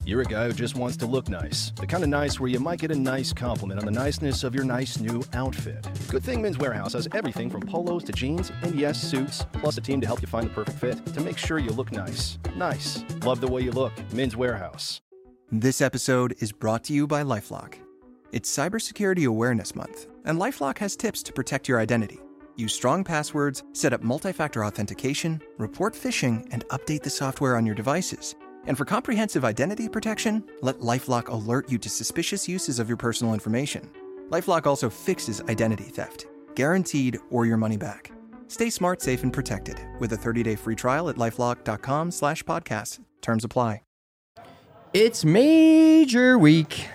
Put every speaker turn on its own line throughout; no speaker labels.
You're a guy who just wants to look nice. The kind of nice where you might get a nice compliment on the niceness of your nice new outfit. Good thing Men's Warehouse has everything from polos to jeans and yes, suits, plus a team to help you find the perfect fit to make sure you look nice. Nice. Love the way you look. Men's Warehouse.
This episode is brought to you by LifeLock. It's Cybersecurity Awareness Month, and LifeLock has tips to protect your identity. Use strong passwords, set up multi-factor authentication, report phishing, and update the software on your devices. And for comprehensive identity protection, let LifeLock alert you to suspicious uses of your personal information. LifeLock also fixes identity theft, guaranteed or your money back. Stay smart, safe, and protected with a 30-day free trial at LifeLock.com/podcast. Terms apply.
It's Major Week,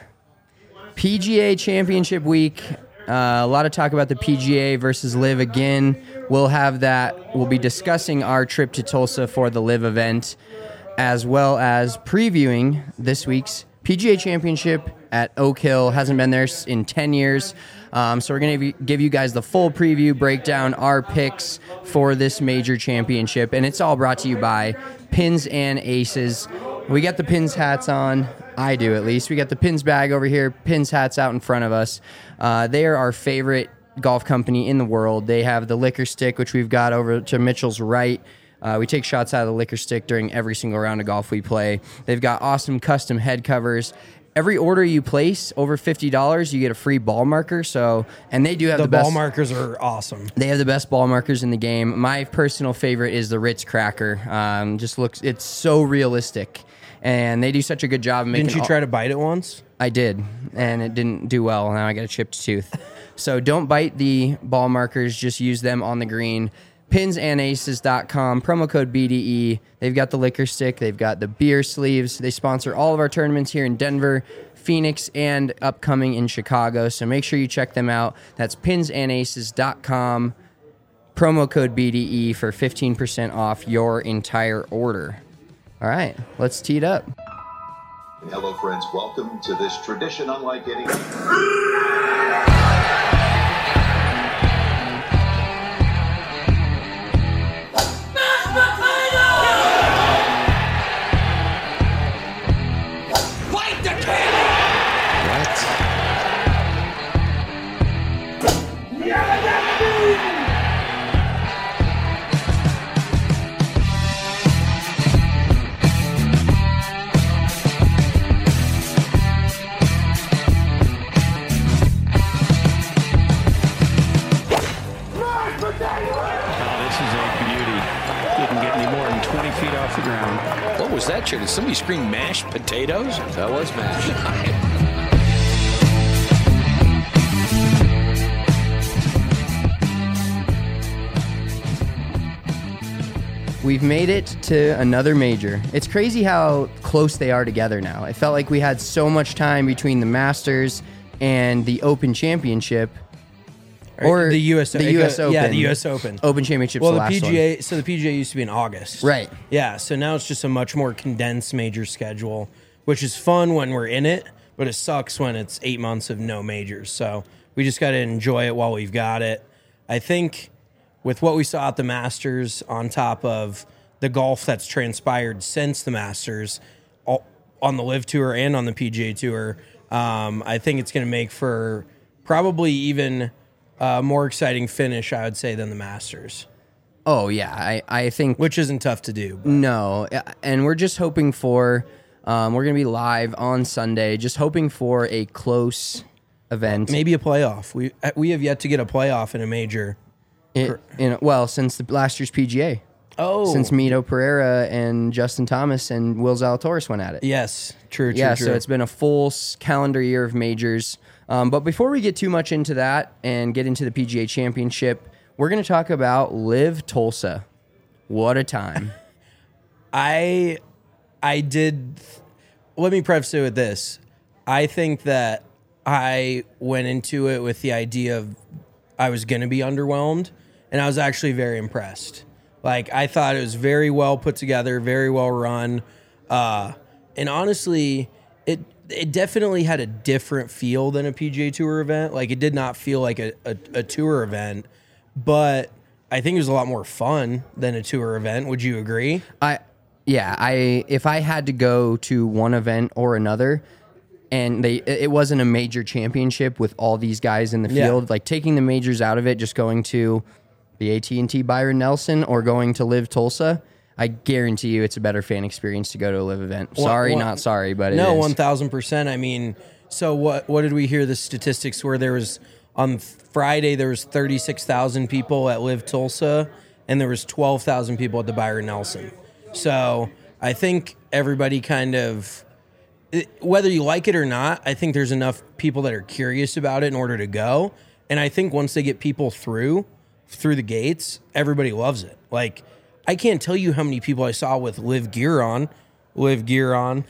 PGA Championship Week. A lot of talk about the PGA versus LIV again. We'll have that. We'll be discussing our trip to Tulsa for the LIV event, as well as previewing this week's PGA Championship at Oak Hill. Hasn't been there in 10 years. So we're going to give you guys the full preview, break down our picks for this major championship. And it's all brought to you by Pins and Aces. We got the Pins hats on. I do, at least. We got the Pins bag over here, Pins hats out in front of us. They are our favorite golf company in the world. They have the liquor stick, which we've got over to Mitchell's right. We take shots out of the liquor stick during every single round of golf we play. They've got awesome custom head covers. Every order you place over $50, you get a free ball marker. And they do have the best
ball markers are awesome.
They have the best ball markers in the game. My personal favorite is the Ritz Cracker. It's so realistic, and they do such a good job of making.
Didn't you try to bite it once?
I did, and it didn't do well. Now I got a chipped tooth. So don't bite the ball markers. Just use them on the green. Pinsandaces.com, promo code BDE. They've got the liquor stick. They've got the beer sleeves. They sponsor all of our tournaments here in Denver, Phoenix, and upcoming in Chicago. So make sure you check them out. That's pinsandaces.com, promo code BDE for 15% off your entire order. All right, let's tee it up.
Hello, friends. Welcome to this tradition unlike any.
What was that, Did somebody scream mashed potatoes?
That was mashed.
We've made it to another major. It's crazy how close they are together now. It felt like we had so much time between the Masters and the Open Championship. Or
the U.S.
Open.
Yeah, the U.S. Open.
Open Championship's
well,
the
the
last
PGA.
one.
So the PGA used to be in August.
Right.
Yeah, so now it's just a much more condensed major schedule, which is fun when we're in it, but it sucks when it's 8 months of no majors. So we just got to enjoy it while we've got it. I think with what we saw at the Masters, on top of the golf that's transpired since the Masters, on the LIV Tour and on the PGA Tour, I think it's going to make for probably even more exciting finish, I would say, than the Masters.
Oh, yeah. I think...
Which isn't tough to do. But.
No. And we're just hoping for... we're going to be live on Sunday, just hoping for a close event.
Maybe a playoff. We have yet to get a playoff in a major.
Since the last year's PGA.
Oh.
Since Mito Pereira and Justin Thomas and Will Zalatoris went at it.
Yes. True.
So it's been a full calendar year of majors. But before we get too much into that and get into the PGA Championship, we're going to talk about LIV Tulsa. What a time.
I did. Let me preface it with this. I think that I went into it with the idea of I was going to be underwhelmed, and I was actually very impressed. Like, I thought it was very well put together, very well run. And honestly, it definitely had a different feel than a PGA Tour event. Like, it did not feel like a tour event, but I think it was a lot more fun than a tour event. Would you agree?
Yeah, if I had to go to one event or another, and it wasn't a major championship with all these guys in the field, like taking the majors out of it, just going to the AT&T Byron Nelson or going to Live Tulsa, I guarantee you it's a better fan experience to go to a Live event. Sorry, not sorry, but
no,
it is.
1,000%. I mean, so what did we hear the statistics where there was on Friday there was 36,000 people at Live Tulsa and there was 12,000 people at the Byron Nelson. So I think everybody kind of, whether you like it or not, I think there's enough people that are curious about it in order to go. And I think once they get people through the gates, everybody loves it. Like, I can't tell you how many people I saw with Live gear on.
Rippers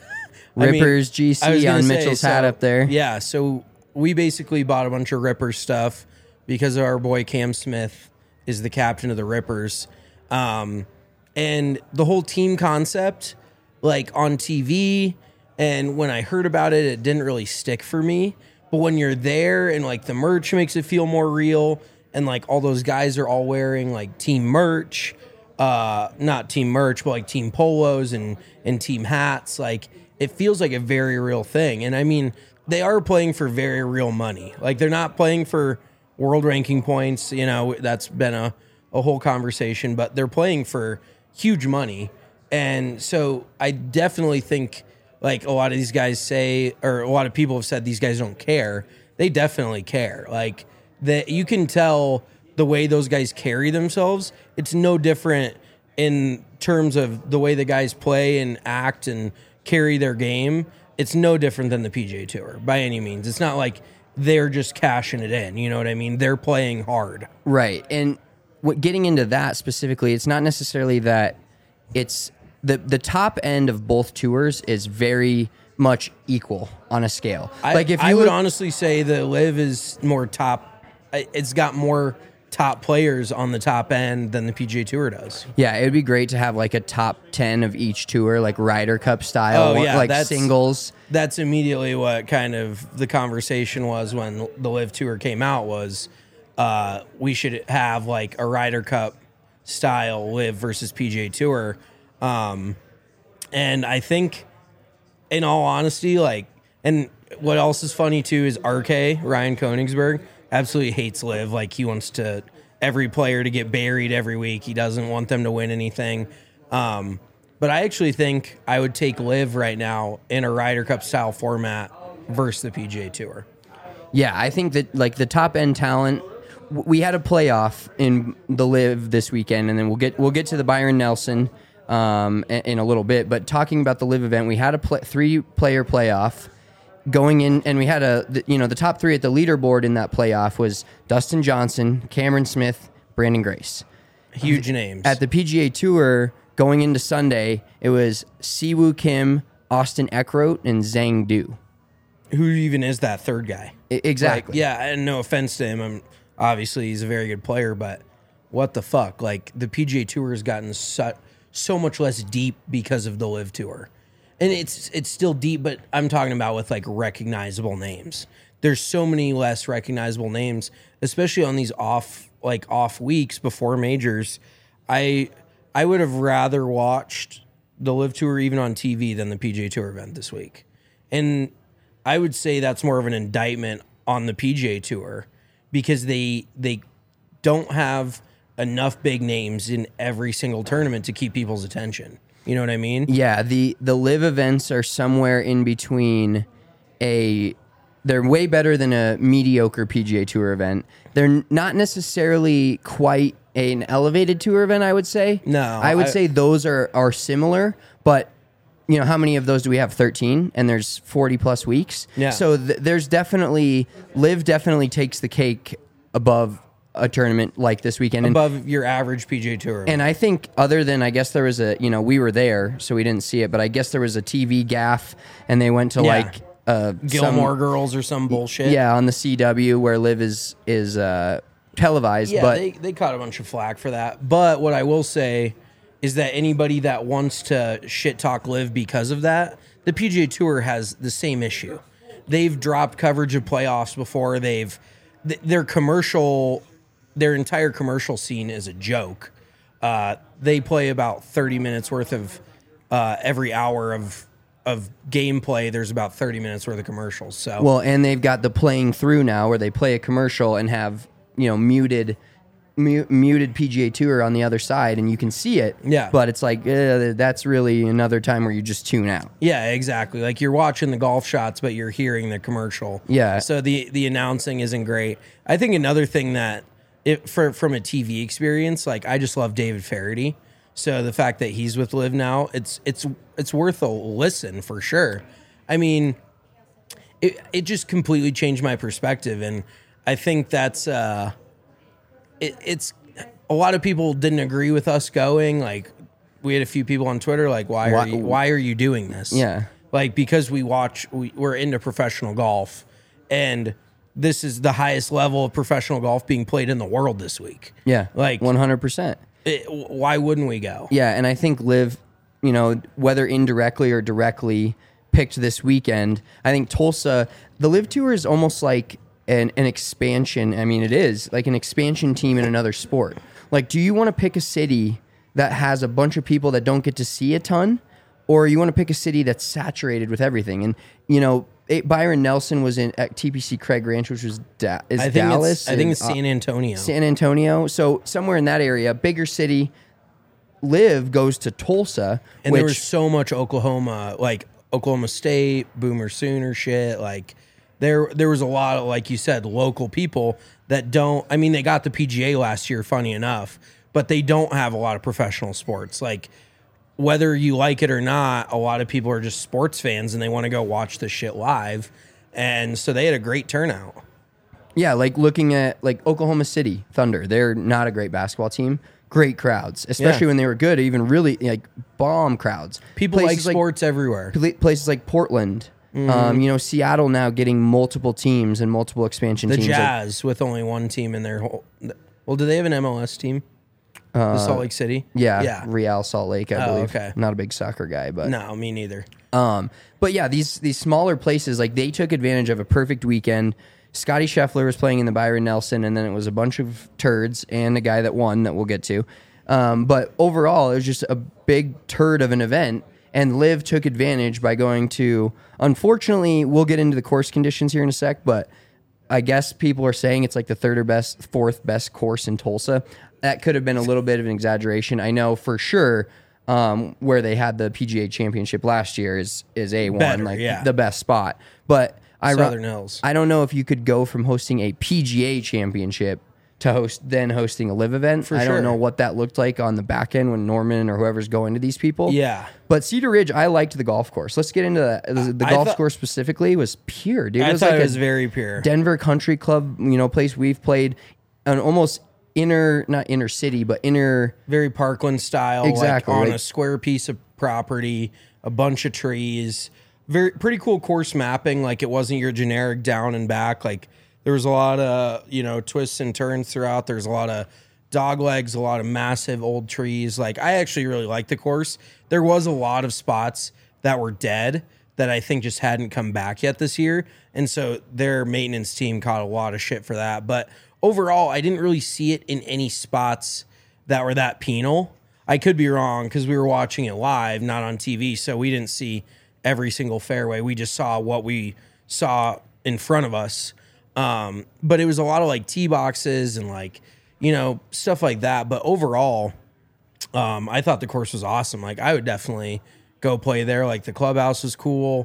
GC on Mitchell's hat up there.
Yeah, so we basically bought a bunch of Rippers stuff because our boy Cam Smith is the captain of the Rippers. And the whole team concept, like on TV, and when I heard about it, it didn't really stick for me. But when you're there and like the merch makes it feel more real, and like all those guys are all wearing like team merch, not team merch, but like team polos and team hats, like it feels like a very real thing. And I mean, they are playing for very real money. Like they're not playing for world ranking points. You know, that's been a whole conversation, but they're playing for huge money. And so I definitely think, like a lot of these guys say, or a lot of people have said these guys don't care. They definitely care. Like that, you can tell the way those guys carry themselves. It's no different in terms of the way the guys play and act and carry their game. It's no different than the PGA Tour by any means. It's not like they're just cashing it in. You know what I mean? They're playing hard.
Right. And getting into that specifically, it's not necessarily that it's the top end of both tours is very much equal on a scale.
I would honestly say the Live is more top. It's got more top players on the top end than the PGA Tour does.
Yeah, it would be great to have like a top 10 of each tour, like Ryder Cup style, like singles.
That's immediately what kind of the conversation was when the Live Tour came out was we should have like a Ryder Cup style Live versus PGA Tour. And I think, in all honesty, like, and what else is funny too is RK, Ryan Koenigsberg, absolutely hates Live. Like, he wants every player to get buried every week. He doesn't want them to win anything. But I actually think I would take Live right now in a Ryder Cup style format versus the PGA Tour.
Yeah, I think that like the top end talent, we had a playoff in the Live this weekend, and then we'll get to the Byron Nelson in a little bit. But talking about the Live event, we had a 3-player playoff going in, and we had the top 3 at the leaderboard in that playoff was Dustin Johnson, Cameron Smith, Brandon Grace.
Huge names.
At the PGA Tour going into Sunday, it was Siwoo Kim, Austin Eckroat, and Zhang Du.
Who even is that third guy?
Exactly.
Like, yeah, and no offense to him. Obviously, he's a very good player, but what the fuck? Like, the PGA Tour has gotten so much less deep because of the Live Tour. And it's still deep, but I'm talking about with like recognizable names. There's so many less recognizable names, especially on these off weeks before majors. I would have rather watched the Live Tour even on TV than the PGA Tour event this week. And I would say that's more of an indictment on the PGA Tour because they don't have enough big names in every single tournament to keep people's attention. You know what I mean?
Yeah, the Live events are somewhere in between they're way better than a mediocre PGA Tour event. They're not necessarily quite an elevated tour event, I would say.
No.
I would say those are similar, but you know, how many of those do we have? 13, and there's 40 plus weeks.
Yeah.
So there's definitely, Live definitely takes the cake above a tournament like this weekend.
Above your average PGA Tour.
And I think other than, I guess there was we were there, so we didn't see it, but I guess there was a TV gaff, and they went to
Gilmore Girls or some bullshit.
Yeah, on the CW where Live is televised.
Yeah,
but
they caught a bunch of flack for that. But what I will say is that anybody that wants to shit talk Live because of that, the PGA Tour has the same issue. They've dropped coverage of playoffs before. Their entire commercial scene is a joke. They play about 30 minutes worth of every hour of gameplay, there's about 30 minutes worth of commercials. So
Well, and they've got the playing through now where they play a commercial and have, muted PGA Tour on the other side, and you can see it.
Yeah.
But it's like, that's really another time where you just tune out.
yeah, exactly. Like you're watching the golf shots, but you're hearing the commercial.
Yeah.
So the announcing isn't great. I think another thing that from a TV experience, like I just love David Faraday. So the fact that he's with Live now, it's worth a listen for sure. I mean, it just completely changed my perspective, and I think that's it's a lot of people didn't agree with us going. Like we had a few people on Twitter like, why are you doing this?
Yeah.
Like because we're into professional golf, and this is the highest level of professional golf being played in the world this week.
Yeah.
Like
100%.
Why wouldn't we go?
Yeah, and I think Liv, whether indirectly or directly picked this weekend, I think Tulsa, the Live Tour is almost like an expansion. I mean, it is like an expansion team in another sport. Like, do you want to pick a city that has a bunch of people that don't get to see a ton, or you want to pick a city that's saturated with everything? And, Byron Nelson was at TPC Craig Ranch, which was Dallas.
I think it's San Antonio.
San Antonio. So somewhere in that area, bigger city. Liv goes to Tulsa,
and there was so much Oklahoma, like Oklahoma State, Boomer Sooner shit. Like there was a lot of, like you said, local people that don't. I mean, they got the PGA last year, funny enough, but they don't have a lot of professional sports. Like whether you like it or not, a lot of people are just sports fans and they want to go watch this shit live. And so they had a great turnout.
Yeah, like looking at like Oklahoma City Thunder, they're not a great basketball team. Great crowds, especially when they were good, even really like bomb crowds.
People
places
like sports everywhere.
Places like Portland, Seattle now getting multiple teams and multiple expansion
the
teams.
The Jazz with only one team in their whole. Well, do they have an MLS team? The Salt Lake City?
Yeah. Real Salt Lake, I believe.
Okay.
Not a big soccer guy, but
no, me neither.
But yeah, these smaller places, like they took advantage of a perfect weekend. Scotty Scheffler was playing in the Byron Nelson, and then it was a bunch of turds and a guy that won that we'll get to. But overall, it was just a big turd of an event, and Liv took advantage by going to, unfortunately, we'll get into the course conditions here in a sec, but I guess people are saying it's like the fourth best course in Tulsa. That could have been a little bit of an exaggeration. I know for sure where they had the PGA Championship last year is A1,
better,
the best spot. But
Southern Hills.
I don't know if you could go from hosting a PGA Championship to hosting a Live event. I don't know what that looked like on the back end when Norman or whoever's going to these people.
Yeah.
But Cedar Ridge, I liked the golf course. Let's get into that. The golf course specifically was pure, dude.
It was very pure.
Denver Country Club, place we've played an almost not inner city, but
very Parkland style,
exactly,
like on a square piece of property, a bunch of trees, pretty cool course mapping. Like it wasn't your generic down and back. Like there was a lot of, twists and turns throughout. There's a lot of dog legs, a lot of massive old trees. Like I actually really liked the course. There was a lot of spots that were dead that I think just hadn't come back yet this year. And so their maintenance team caught a lot of shit for that. But overall, I didn't really see it in any spots that were that penal. I could be wrong because we were watching it live, not on TV, so we didn't see every single fairway. We just saw what we saw in front of us. But it was a lot of like tee boxes and like, stuff like that. But overall, I thought the course was awesome. Like I would definitely go play there. Like the clubhouse was cool.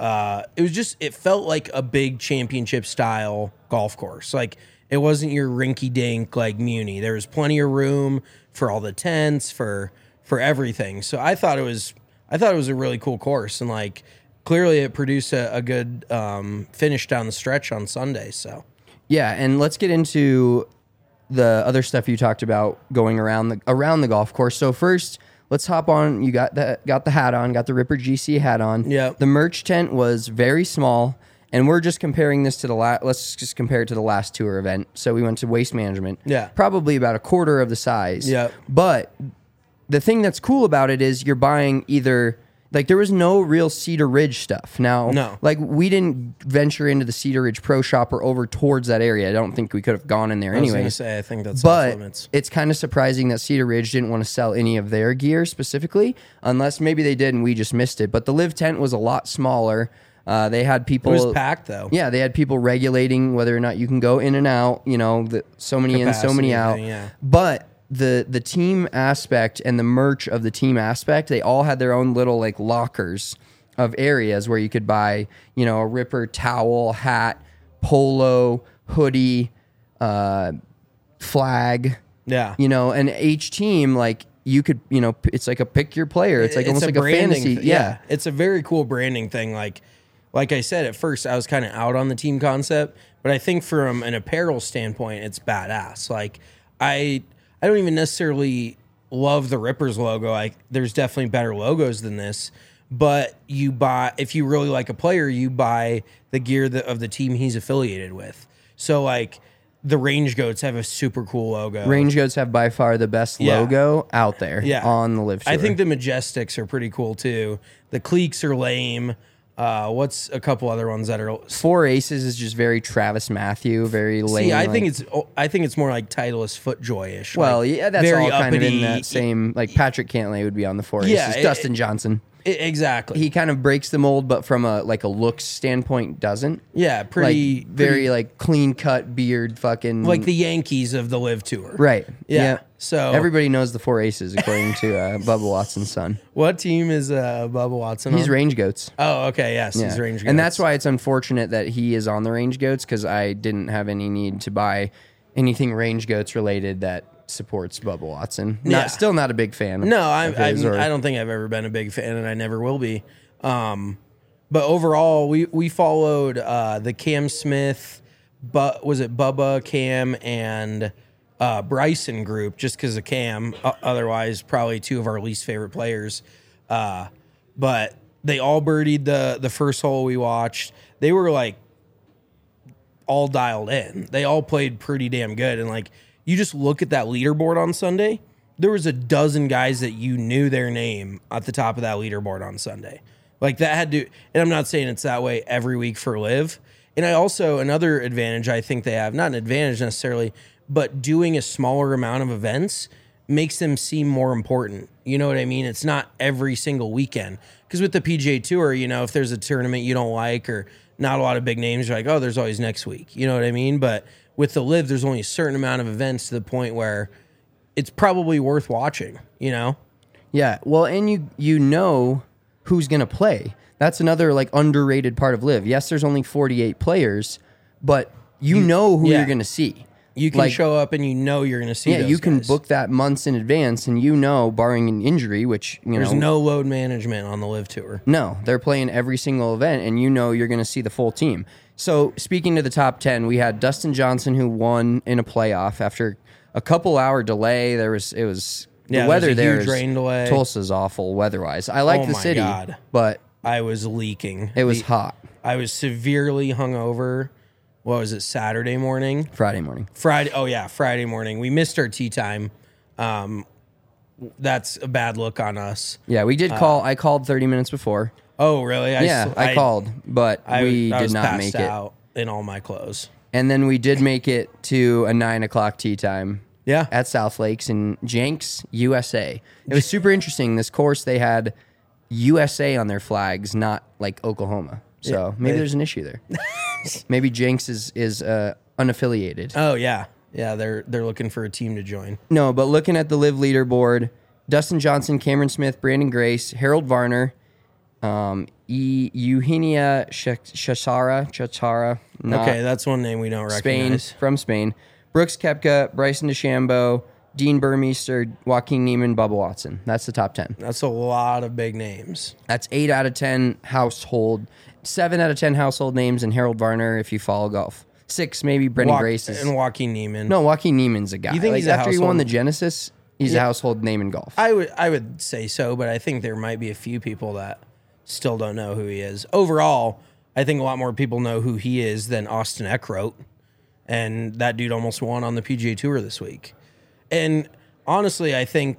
It felt like a big championship style golf course. Like it wasn't your rinky dink like Muni. There was plenty of room for all the tents, for everything. So I thought it was a really cool course, and like clearly it produced a good finish down the stretch on Sunday. So
yeah, and let's get into the other stuff you talked about going around the golf course. So first, let's hop on. You got the hat on, got the Ripper GC hat on.
Yeah.
The merch tent was very small. And we're just comparing this to let's just compare it to the last tour event. So we went to Waste Management.
Yeah.
Probably about a quarter of the size.
Yeah.
But the thing that's cool about it is you're buying either Like there was no real Cedar Ridge stuff. Now,
No.
like we didn't venture into the Cedar Ridge Pro Shop or over towards that area. I don't think we could have gone in there
I was
anyway.
gonna say, I think that's off
But
limits.
it's kind of surprising that Cedar Ridge didn't want to sell any of their gear specifically, unless maybe they did and we just missed it. But the live tent was a lot smaller. They had
It
people.
was packed though.
Yeah, they had people regulating whether or not you can go in and out. You know, so many in, so many
Capacity
out.
thing, yeah.
But the team aspect and the merch of the team aspect, they all had their own little like lockers of areas where you could buy, you know, a Ripper towel, hat, polo, hoodie, flag.
Yeah.
You know, and each team, like you could, you know, it's like a pick your player. It's like almost like a
branding
fantasy.
thing.
Yeah.
It's a very cool branding thing. Like I said, at first I was kind of out on the team concept, but I think from an apparel standpoint, it's badass. Like I don't even necessarily love the Rippers logo. There's definitely better logos than this, but if you really like a player, you buy the gear of the team he's affiliated with. So like the Range Goats have a super cool logo.
Range Goats have by far the best logo out there on the live tour.
I think the Majestics are pretty cool too. The Cliques are lame. What's a couple other ones that are
Four Aces is just very Travis Matthew, very lame.
See, I think it's more like Titleist FootJoy-ish.
Well,
like,
yeah, that's
very
all kind of in
uppity.
that same. Like Patrick Cantlay would be on the Four
Yeah,
Aces. Dustin Johnson.
Exactly.
He kind of breaks the mold, but from a looks standpoint, doesn't.
Yeah, pretty
very like clean cut beard, fucking
like the Yankees of the Live Tour.
right.
Yeah. So
everybody knows the Four Aces according to Bubba Watson's son.
what team is Bubba Watson?
He's
on?
Range Goats.
Oh, okay. Yes,
Yeah.
he's Range Goats.
And that's why it's unfortunate that he is on the Range Goats because I didn't have any need to buy anything Range Goats related that supports Bubba Watson.
Yeah.
Still not a big fan.
No,
of his or-
I don't think I've ever been a big fan, and I never will be. But overall, we followed the Cam Smith, but was it Bubba, Cam, and Bryson group just because of Cam. Otherwise, probably two of our least favorite players. But they all birdied the first hole we watched. They were like all dialed in. They all played pretty damn good, and like. You just look at that leaderboard on Sunday, there was a dozen guys that you knew their name at the top of that leaderboard on Sunday. Like that had to, and I'm not saying it's that way every week for Live. And I also, another advantage I think they have, not an advantage necessarily, but doing a smaller amount of events makes them seem more important. You know what I mean? It's not every single weekend. Because with the PGA Tour, you know, if there's a tournament you don't like or not a lot of big names, you're like, oh, there's always next week. You know what I mean? But with the Live, there's only a certain amount of events to the point where it's probably worth watching, you know?
Yeah. Well, and you know who's going to play. That's another like underrated part of Live. Yes, there's only 48 players, but you know who you're going to see.
You can show up and you know you're going to see those
you can
guys.
book that months in advance and you know, barring an injury, which,
There's no load management on the Live Tour.
No, they're playing every single event, and you know you're going to see the full team. So, speaking to the top 10, we had Dustin Johnson, who won in a playoff after a couple-hour delay. The weather there
huge rain delay.
Tulsa's awful weather-wise. I like
Oh
the
my
city,
God.
but
I was leaking.
it was hot
I was severely hungover. What was it, Saturday morning?
Friday morning.
Friday morning. We missed our tea time. That's a bad look on us.
Yeah, we did call. I called 30 minutes before.
Oh, really?
I called, but we
I
did
was
not
passed
make it.
out in all my clothes.
And then we did make it to a 9 o'clock tea time.
Yeah.
At South Lakes in Jenks, USA. It was super interesting. This course, they had USA on their flags, not like Oklahoma. So maybe there's an issue there. Maybe Jenks is unaffiliated.
Oh, yeah. Yeah, they're looking for a team to join.
No, but looking at the Live leaderboard, Dustin Johnson, Cameron Smith, Brandon Grace, Harold Varner, Eugenia Chachara.
Okay, that's one name we don't recognize.
From Spain. Brooks Koepka, Bryson DeChambeau, Dean Burmeister, Joaquin Neiman, Bubba Watson. That's the top 10.
That's a lot of big names.
That's 8 out of 10 household, 7 out of 10 household names, and Harold Varner if you follow golf. 6 maybe Brendan Grace is.
And Joaquin Neiman.
No, Joaquin Neiman's a guy.
You think he's a
after he won
household-
the Genesis, he's a household name in golf.
I would say so, but I think there might be a few people that still don't know who he is. Overall, I think a lot more people know who he is than Austin Eckroat. And that dude almost won on the PGA Tour this week. And honestly, I think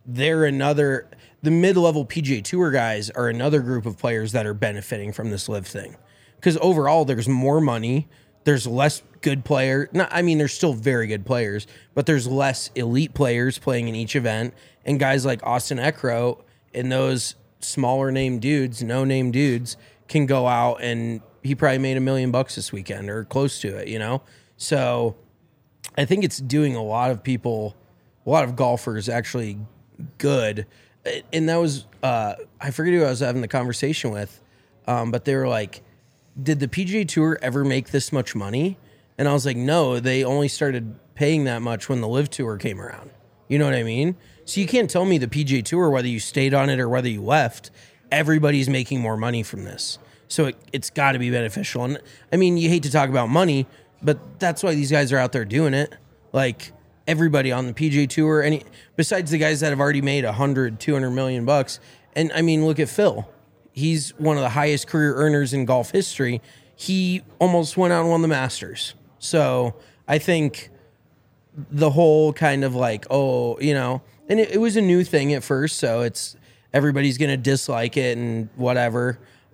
the mid-level PGA Tour guys are another group of players that are benefiting from this live thing. Because overall, there's more money. There's less good player. There's still very good players, but there's less elite players playing in each event. And guys like Austin Eckroat and those smaller name dudes, no name dudes, can go out and he probably made $1 million this weekend or close to it, So I think it's doing a lot of golfers actually good. And that was, I forget who I was having the conversation with, but they were like, did the PGA Tour ever make this much money? And I was like, no, they only started paying that much when the Live Tour came around. You know what I mean? So you can't tell me the PGA Tour, whether you stayed on it or whether you left, everybody's making more money from this. So it's got to be beneficial. And you hate to talk about money, but that's why these guys are out there doing it. Like everybody on the PGA Tour, besides the guys that have already made $100-200 million bucks. And look at Phil. He's one of the highest career earners in golf history. He almost went out and won the Masters. So I think the whole kind of like, and it was a new thing at first, so everybody's going to dislike it and whatever.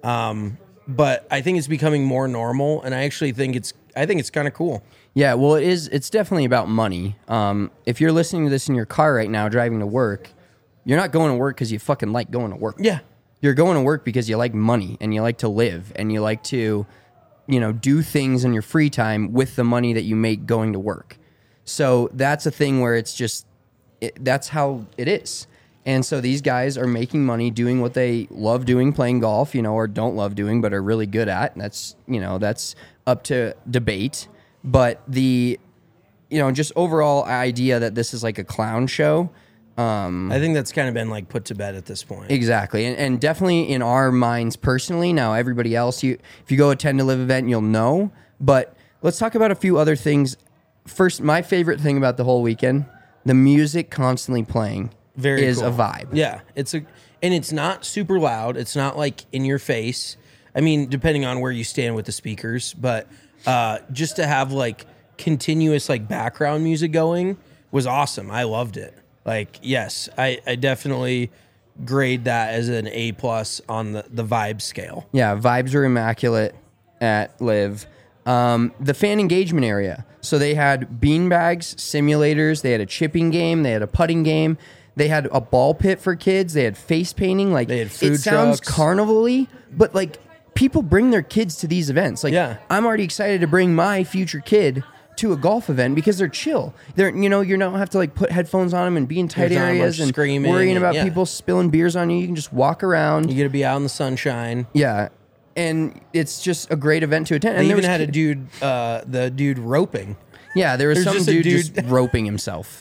But I think it's becoming more normal, and I actually think it's kind of cool.
Yeah, well, it's definitely about money. If you're listening to this in your car right now driving to work, you're not going to work because you fucking like going to work.
Yeah.
You're going to work because you like money and you like to live and you like to, do things in your free time with the money that you make going to work. So that's a thing where it's just, that's how it is. And so these guys are making money doing what they love doing, playing golf, or don't love doing, but are really good at. And that's up to debate. But the, just overall idea that this is like a clown show,
I think that's kind of been like put to bed at this point.
Exactly. And definitely in our minds personally. Now, everybody else, if you go attend a live event, you'll know. But let's talk about a few other things. First, my favorite thing about the whole weekend, the music constantly playing is cool. A vibe.
Yeah. And it's not super loud. It's not like in your face. Depending on where you stand with the speakers, but just to have like continuous like background music going was awesome. I loved it. Like, yes, I definitely grade that as an A+ on the vibe scale.
Yeah, vibes are immaculate at Live. The fan engagement area. So they had beanbags, simulators, they had a chipping game, they had a putting game, they had a ball pit for kids, they had face painting. Like,
they had food
it sounds
trucks.
Carnival-y, but like people bring their kids to these events. Like,
yeah.
I'm already excited to bring my future kid to a golf event because they're chill. You don't have to like put headphones on them and be in tight areas and
screaming
worrying about people spilling beers on you. You can just walk around.
You get to be out in the sunshine.
Yeah. And it's just a great event to attend.
They
and
even had a dude, the dude roping.
Yeah, there was some
just
dude just roping himself.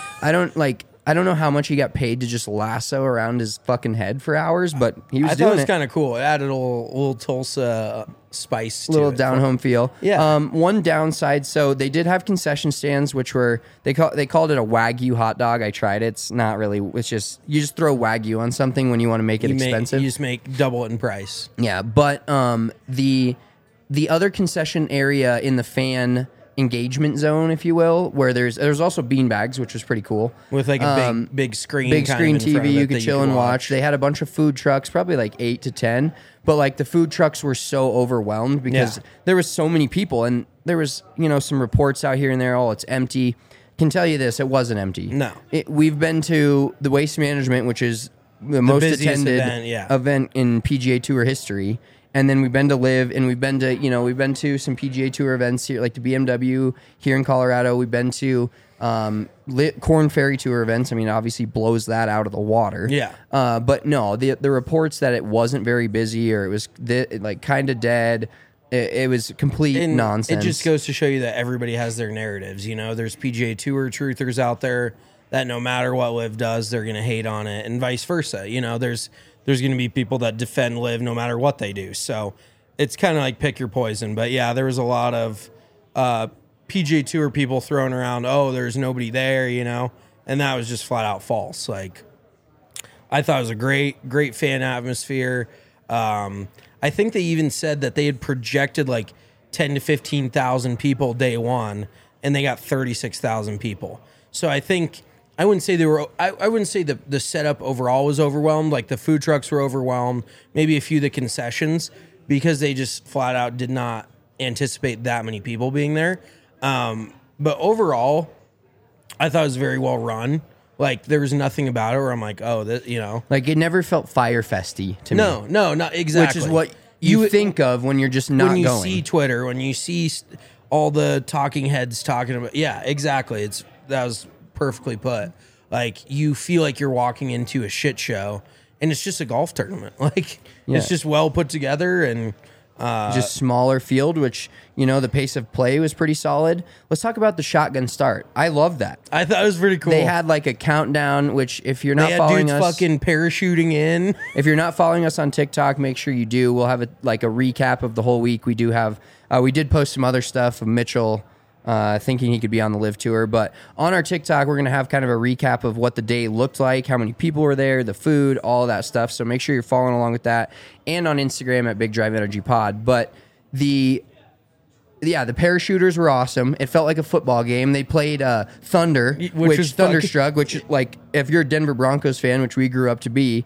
I don't know how much he got paid to just lasso around his fucking head for hours, but he was doing it.
I thought it was kind of cool. It added a little Tulsa spice to it.
Little down-home feel.
Yeah.
One downside, so they did have concession stands, which were, they called it a Wagyu hot dog. I tried it. It's not really, it's just, you just throw Wagyu on something when you want to make it expensive.
You just make double it in price.
Yeah, but the other concession area in the fan engagement zone, if you will, where there's also beanbags, which was pretty cool,
with like a big screen,
TV you could chill and watch. They had a bunch of food trucks, probably like 8 to 10, but like the food trucks were so overwhelmed because there was so many people, and there was some reports out here and there. Oh, it's empty. Can tell you this, it wasn't empty.
No,
we've been to the Waste Management, which is the most attended event in PGA Tour history. And then we've been to Live, and we've been to some PGA Tour events here, like the BMW here in Colorado. We've been to Corn Ferry Tour events. Obviously blows that out of the water.
Yeah.
But no, the reports that it wasn't very busy or it was like kind of dead. It was complete nonsense.
It just goes to show you that everybody has their narratives. There's PGA Tour truthers out there that no matter what Live does, they're going to hate on it, and vice versa. There's going to be people that defend Live no matter what they do. So it's kind of like pick your poison. But yeah, there was a lot of PGA Tour people throwing around, oh, there's nobody there, and that was just flat out false. Like, I thought it was a great fan atmosphere. I think they even said that they had projected like 10 to 15,000 people day one, and they got 36,000 people. So I think I wouldn't say they were. I wouldn't say the setup overall was overwhelmed. Like the food trucks were overwhelmed. Maybe a few of the concessions because they just flat out did not anticipate that many people being there. But overall, I thought it was very well run. Like there was nothing about it where I'm like, oh, that, you know,
Like it never felt Fire Festy to me.
no, not exactly.
Which is what you think of when you're just not
when you
going.
see Twitter, when you see all the talking heads talking about, yeah, exactly. That was perfectly put. Like you feel like you're walking into a shit show, and it's just a golf tournament. Like it's just well put together and
just smaller field, which, you know, the pace of play was pretty solid. Let's talk about the shotgun start. I love that.
I thought it was pretty cool.
They had like a countdown, which if you're not
they had
following
dudes
us,
fucking parachuting in.
if you're not following us on TikTok, make sure you do. We'll have a recap of the whole week. We do have, we did post some other stuff of Mitchell thinking he could be on the Live Tour, but on our TikTok, we're going to have kind of a recap of what the day looked like, how many people were there, the food, all of that stuff. So make sure you're following along with that, and on Instagram at Big Drive Energy Pod. But the parachuters were awesome. It felt like a football game. They played Thunder, which
was
Thunderstruck, which, like, if you're a Denver Broncos fan, which we grew up to be,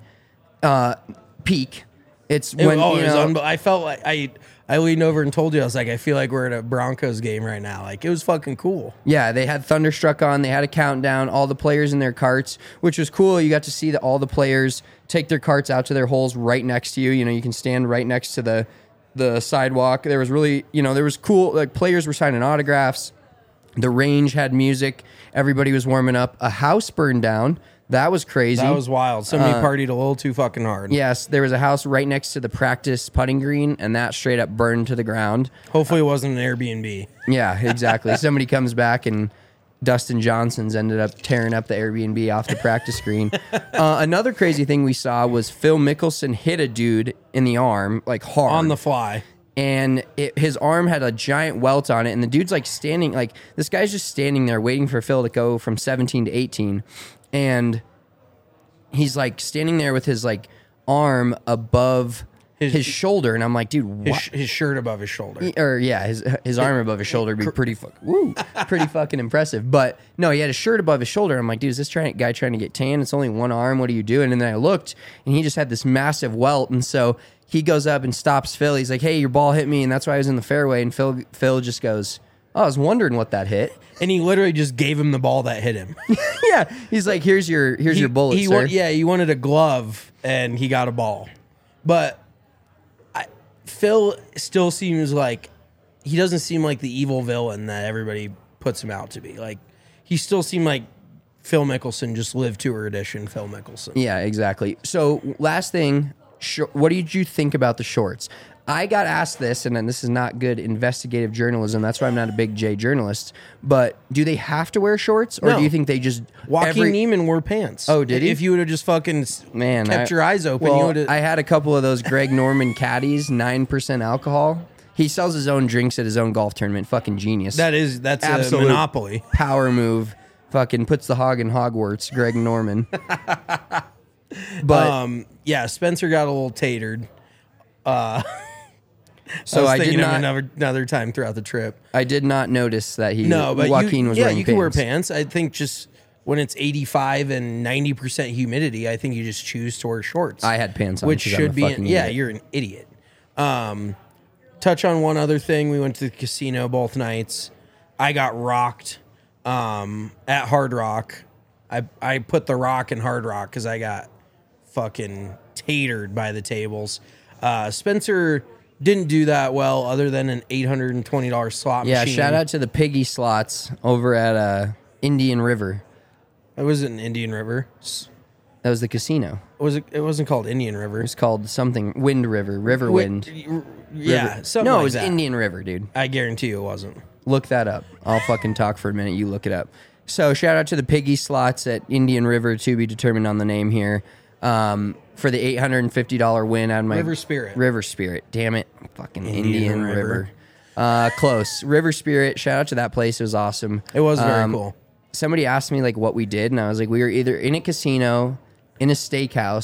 peak. It's when
I felt like I leaned over and told you, I was like, I feel like we're at a Broncos game right now. Like it was fucking cool.
Yeah, they had Thunderstruck on. They had a countdown. All the players in their carts, which was cool. You got to see all the players take their carts out to their holes right next to you. You know, you can stand right next to the sidewalk. There was really, you know, there was cool. Like players were signing autographs. The range had music. Everybody was warming up. A house burned down. That was crazy.
That was wild. Somebody partied a little too fucking hard.
Yes, there was a house right next to the practice putting green, and that straight up burned to the ground.
Hopefully it wasn't an Airbnb.
Yeah, exactly. Somebody comes back and Dustin Johnson's ended up tearing up the Airbnb off the practice green. Another crazy thing we saw was Phil Mickelson hit a dude in the arm, like hard.
On the fly.
And his arm had a giant welt on it, and the dude's like standing, like this guy's just standing there waiting for Phil to go from 17 to 18. And he's like standing there with his like arm above his shoulder, and I'm like, dude, what?
His shirt above his shoulder.
His arm above his shoulder would be pretty fucking impressive. But no, he had a shirt above his shoulder. I'm like, dude, is this guy trying to get tan? It's only one arm. What are you doing? And then I looked, and he just had this massive welt, and so he goes up and stops Phil. He's like, hey, your ball hit me, and that's why I was in the fairway. And Phil just goes, oh, I was wondering what that hit.
And he literally just gave him the ball that hit him.
Yeah, he's like, here's your bullet, sir.
He wanted a glove, and he got a ball. But Phil still seems like, he doesn't seem like the evil villain that everybody puts him out to be. Like, he still seemed like Phil Mickelson, just Live Tour edition Phil Mickelson.
Yeah, exactly. So last thing, what did you think about the shorts? I got asked this, and then this is not good investigative journalism. That's why I'm not a big J journalist. But do they have to wear shorts, or do you think they just
Joaquin Neiman wore pants?
Oh, did he?
If you would have just fucking kept your eyes open,
well,
you would have.
I had a couple of those Greg Norman caddies, 9% alcohol. He sells his own drinks at his own golf tournament. Fucking genius.
That's
absolute
a monopoly.
Power move. Fucking puts the hog in Hogwarts. Greg Norman. But
yeah, Spencer got a little tatered.
So I
did
not
another time throughout the trip.
I did not notice that
but
Joaquin was wearing pants.
Yeah, you can wear pants. I think just when it's 85 and 90% humidity, I think you just choose to wear shorts.
I had pants on,
which should be you're an idiot. Touch on one other thing. We went to the casino both nights. I got rocked at Hard Rock. I put the rock in Hard Rock because I got fucking tatered by the tables. Spencer didn't do that well other than an $820 slot machine.
Yeah, shout out to the piggy slots over at Indian River.
It wasn't Indian River.
That was the casino.
It wasn't called Indian River.
It was called something Wind River, River Wind.
Yeah, something
No,
like
it was
that.
Indian River, dude.
I guarantee you it wasn't.
Look that up. I'll fucking talk for a minute. You look it up. So shout out to the piggy slots at Indian River, to be determined on the name here. For the $850 win on my
River Spirit.
River Spirit. Damn it. Fucking Indian River. Close. River Spirit. Shout out to that place. It was awesome.
It was very cool.
Somebody asked me like what we did, and I was like, we were either in a casino, in a steakhouse,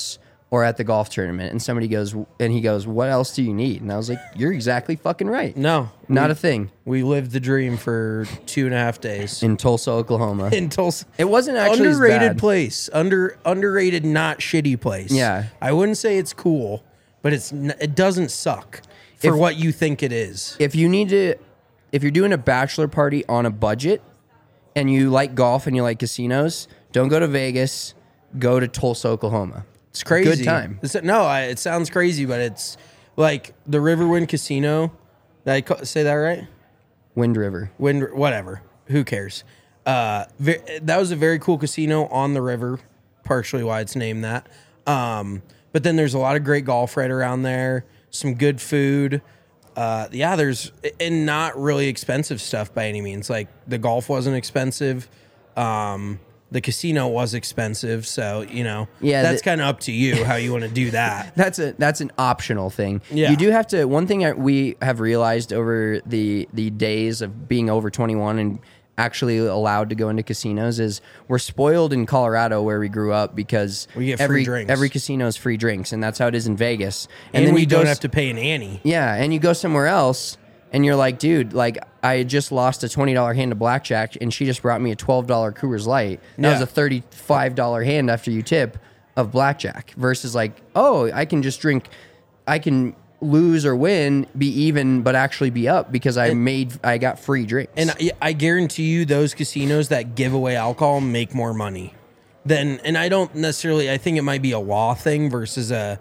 or at the golf tournament, and somebody goes, and he goes, "What else do you need?" And I was like, "You're exactly fucking right.
No,
Not a thing."
We lived the dream for 2.5 days
In Tulsa, Oklahoma.
in Tulsa.
It wasn't actually as
underrated
bad.
place, underrated, not shitty place.
Yeah.
I wouldn't say it's cool, but it doesn't suck for what you think it is.
If you're doing a bachelor party on a budget and you like golf and you like casinos, don't go to Vegas, go to Tulsa, Oklahoma.
It's crazy.
Good time.
It sounds crazy, but it's like the Riverwind Casino. Did I say that right?
Wind River.
Whatever. Who cares? That was a very cool casino on the river, partially why it's named that. But then there's a lot of great golf right around there, some good food. There's and not really expensive stuff by any means. Like the golf wasn't expensive. The casino was expensive, so that's kind of up to you how you want to do that.
That's an optional thing.
Yeah.
You do have to. One thing we have realized over the days of being over 21 and actually allowed to go into casinos is we're spoiled in Colorado where we grew up because
we get free drinks.
Every casino is free drinks, and that's how it is in Vegas.
And
then
we
you
don't have to pay an ante.
Yeah, and you go somewhere else, and you're like, dude, like I just lost a $20 hand of blackjack, and she just brought me a $12 Coors Light. That was a $35 hand after you tip of blackjack. Versus like, oh, I can just drink, I can lose or win, be even, but actually be up because I got free drinks.
And I guarantee you, those casinos that give away alcohol make more money than. And I don't necessarily. I think it might be a law thing versus a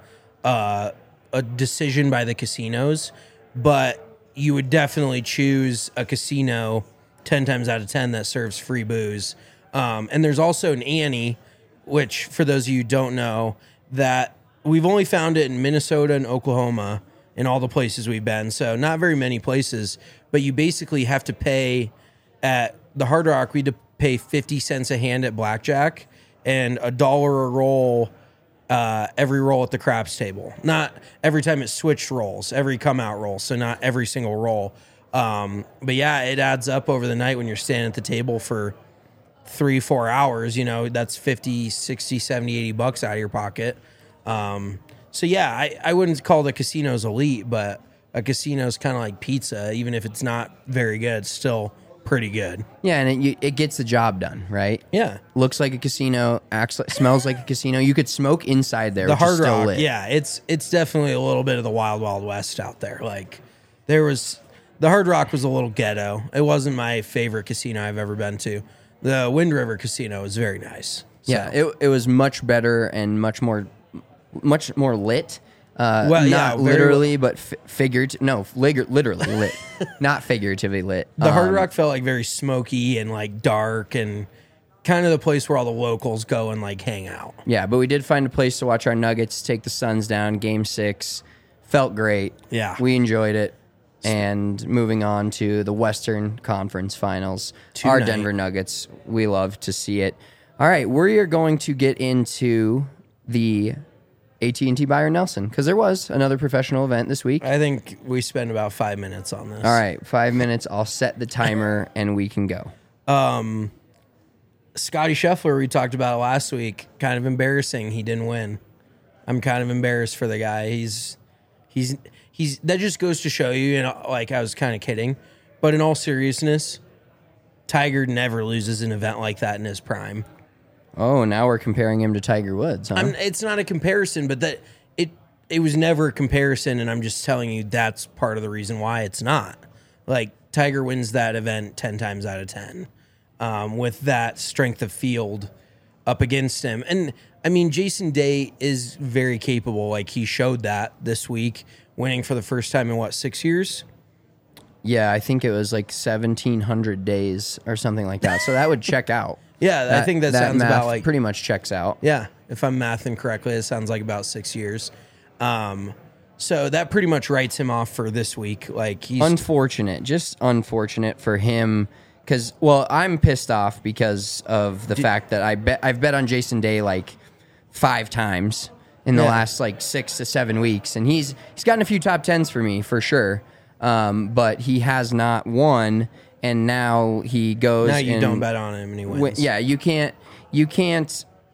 decision by the casinos, but you would definitely choose a casino 10 times out of 10 that serves free booze. And there's also an ante, which for those of you who don't know, that we've only found it in Minnesota and Oklahoma in all the places we've been. So not very many places, but you basically have to pay at the Hard Rock. We had to pay 50 cents a hand at blackjack and $1 a roll. Every roll at the craps table. Not every time it switched rolls, every come out roll. So not every single roll. But yeah, it adds up over the night when you're standing at the table for 3-4 hours. That's 50, 60, 70, 80 bucks out of your pocket. So yeah, I wouldn't call the casinos elite, but a casino's kind of like pizza. Even if it's not very good, it's still pretty good.
Yeah, and it gets the job done, right?
Yeah.
Looks like a casino, smells like a casino. You could smoke inside there.
The
which is
Hard
still
Rock,
lit.
yeah, it's definitely a little bit of the Wild Wild West out there. Like the Hard Rock was a little ghetto. It wasn't my favorite casino I've ever been to. The Wind River Casino was very nice. So.
Yeah, it was much better and much more lit. Not literally, but figuratively. No, literally lit, not figuratively lit.
The Hard Rock felt like very smoky and like dark and kind of the place where all the locals go and like hang out.
Yeah, but we did find a place to watch our Nuggets take the Suns down. Game 6 felt great.
Yeah,
we enjoyed it. And moving on to the Western Conference Finals, our Denver Nuggets. We love to see it. All right, we are going to get into the AT&T Byron Nelson because there was another professional event this week.
I think we spent about 5 minutes on this.
All right, 5 minutes. I'll set the timer and we can go.
Scotty Scheffler, we talked about it last week. Kind of embarrassing he didn't win. I'm kind of embarrassed for the guy. He's that just goes to show you, like I was kind of kidding, but in all seriousness, Tiger never loses an event like that in his prime.
Oh, now we're comparing him to Tiger Woods, huh?
It's not a comparison, but that it was never a comparison, and I'm just telling you that's part of the reason why it's not. Like, Tiger wins that event 10 times out of 10 with that strength of field up against him. And, I mean, Jason Day is very capable. Like, he showed that this week, winning for the first time in, 6 years?
Yeah, I think it was like 1,700 days or something like that. So that would check out.
Yeah, I think that sounds
math
about like...
pretty much checks out.
Yeah, if I'm mathing correctly, it sounds like about 6 years. So that pretty much writes him off for this week. Like he's
just unfortunate for him. Because, well, I'm pissed off because of the fact that I've bet on Jason Day like 5 times in the last like 6 to 7 weeks, and he's gotten a few top 10s for me for sure. But he has not won. And now he goes.
Now you don't bet on him and he wins.
Yeah, you can't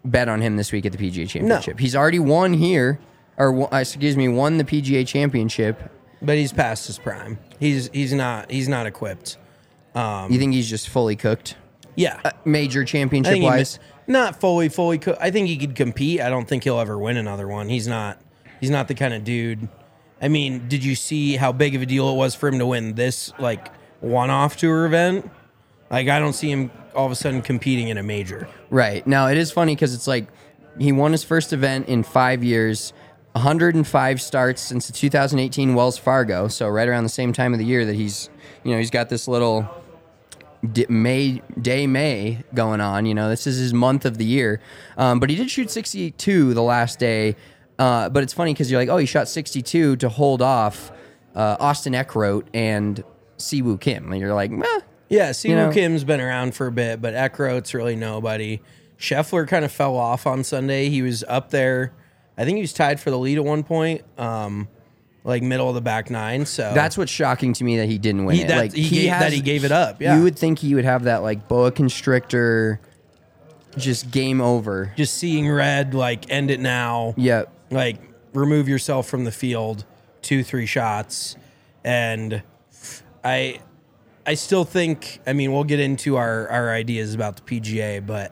bet on him this week at the PGA Championship. He's already won here, or won the PGA Championship.
But he's past his prime. He's not equipped.
You think he's just fully cooked?
Yeah.
Major championship wise?
Not fully cooked. I think he could compete. I don't think he'll ever win another one. He's not the kind of dude. I mean, did you see how big of a deal it was for him to win this like one-off tour event? Like, I don't see him all of a sudden competing in a major.
Right. Now, it is funny because it's like he won his first event in 5 years, 105 starts since the 2018 Wells Fargo, so right around the same time of the year that he's got this little May going on. This is his month of the year. But he did shoot 62 the last day. But it's funny because you're like, oh, he shot 62 to hold off Austin Eckroat and Siwoo Kim. And you're like, eh.
Yeah, Siwoo Kim's been around for a bit, but Eckroat's really nobody. Scheffler kind of fell off on Sunday. He was up there. I think he was tied for the lead at one point, like middle of the back nine. So
that's what's shocking to me that he didn't win it.
He gave it up. Yeah,
you would think he would have that like boa constrictor, just game over,
just seeing red, like end it now.
Yep.
Like remove yourself from the field, 2-3 shots, and I still think, I mean, we'll get into our ideas about the PGA, but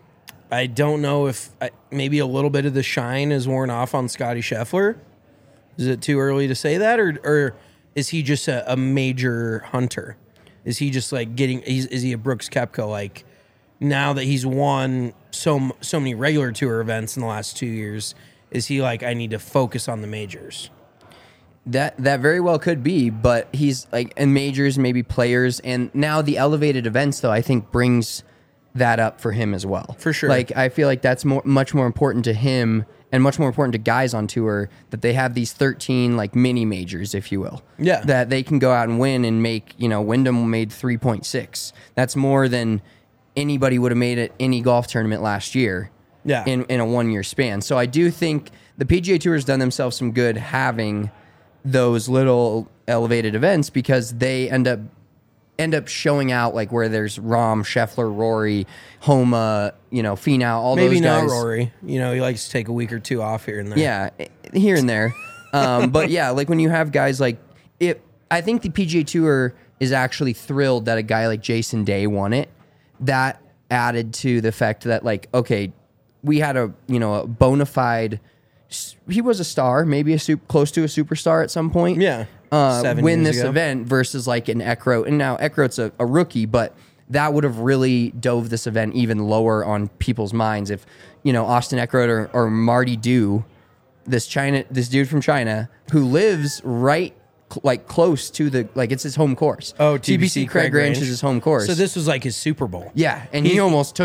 I don't know if maybe a little bit of the shine is worn off on Scotty Scheffler. Is it too early to say that, or is he just a major hunter? Is he just like is he a Brooks Koepka? Like now that he's won so many regular tour events in the last 2 years, is he like, I need to focus on the majors?
That very well could be, but he's like in majors, maybe players, and now the elevated events though I think brings that up for him as well.
For sure.
Like I feel like that's much more important to him and much more important to guys on tour that they have these 13 like mini majors, if you will.
Yeah.
That they can go out and win and make, Wyndham made 3.6. That's more than anybody would have made at any golf tournament last year.
Yeah.
In a 1 year span. So I do think the PGA Tour has done themselves some good having those little elevated events because they end up showing out like where there's Rahm, Scheffler, Rory, Homa, Finau, all
maybe
those guys.
Maybe not Rory. He likes to take a week or two off here and there.
Yeah, here and there. But yeah, like when you have guys like I think the PGA Tour is actually thrilled that a guy like Jason Day won it. That added to the fact that like, okay, we had a bona fide. He was a star, maybe close to a superstar at some point.
Yeah,
win this event versus like an Eckroat, and now Eckroat's a rookie, but that would have really dove this event even lower on people's minds if Austin Eckroat or Marty Du, this dude from China who lives right like close to it's his home course.
Oh,
TPC Craig Ranch is his home course.
So this was like his Super Bowl.
Yeah, and he almost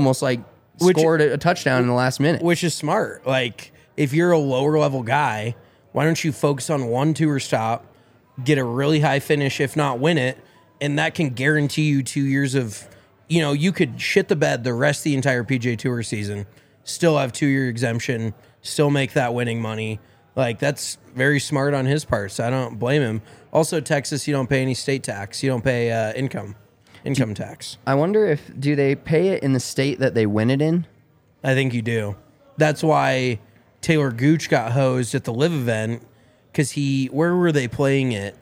scored a touchdown in the last minute,
which is smart. Like, if you're a lower level guy, why don't you focus on one tour stop, get a really high finish, if not win it, and that can guarantee you 2 years of, you could shit the bed the rest of the entire PGA Tour season, still have 2-year exemption, still make that winning money. Like, that's very smart on his part, so I don't blame him. Also, Texas, you don't pay any state tax. You don't pay income tax.
I wonder do they pay it in the state that they win it in?
I think you do. That's why Taylor Gooch got hosed at the Live event because where were they playing it?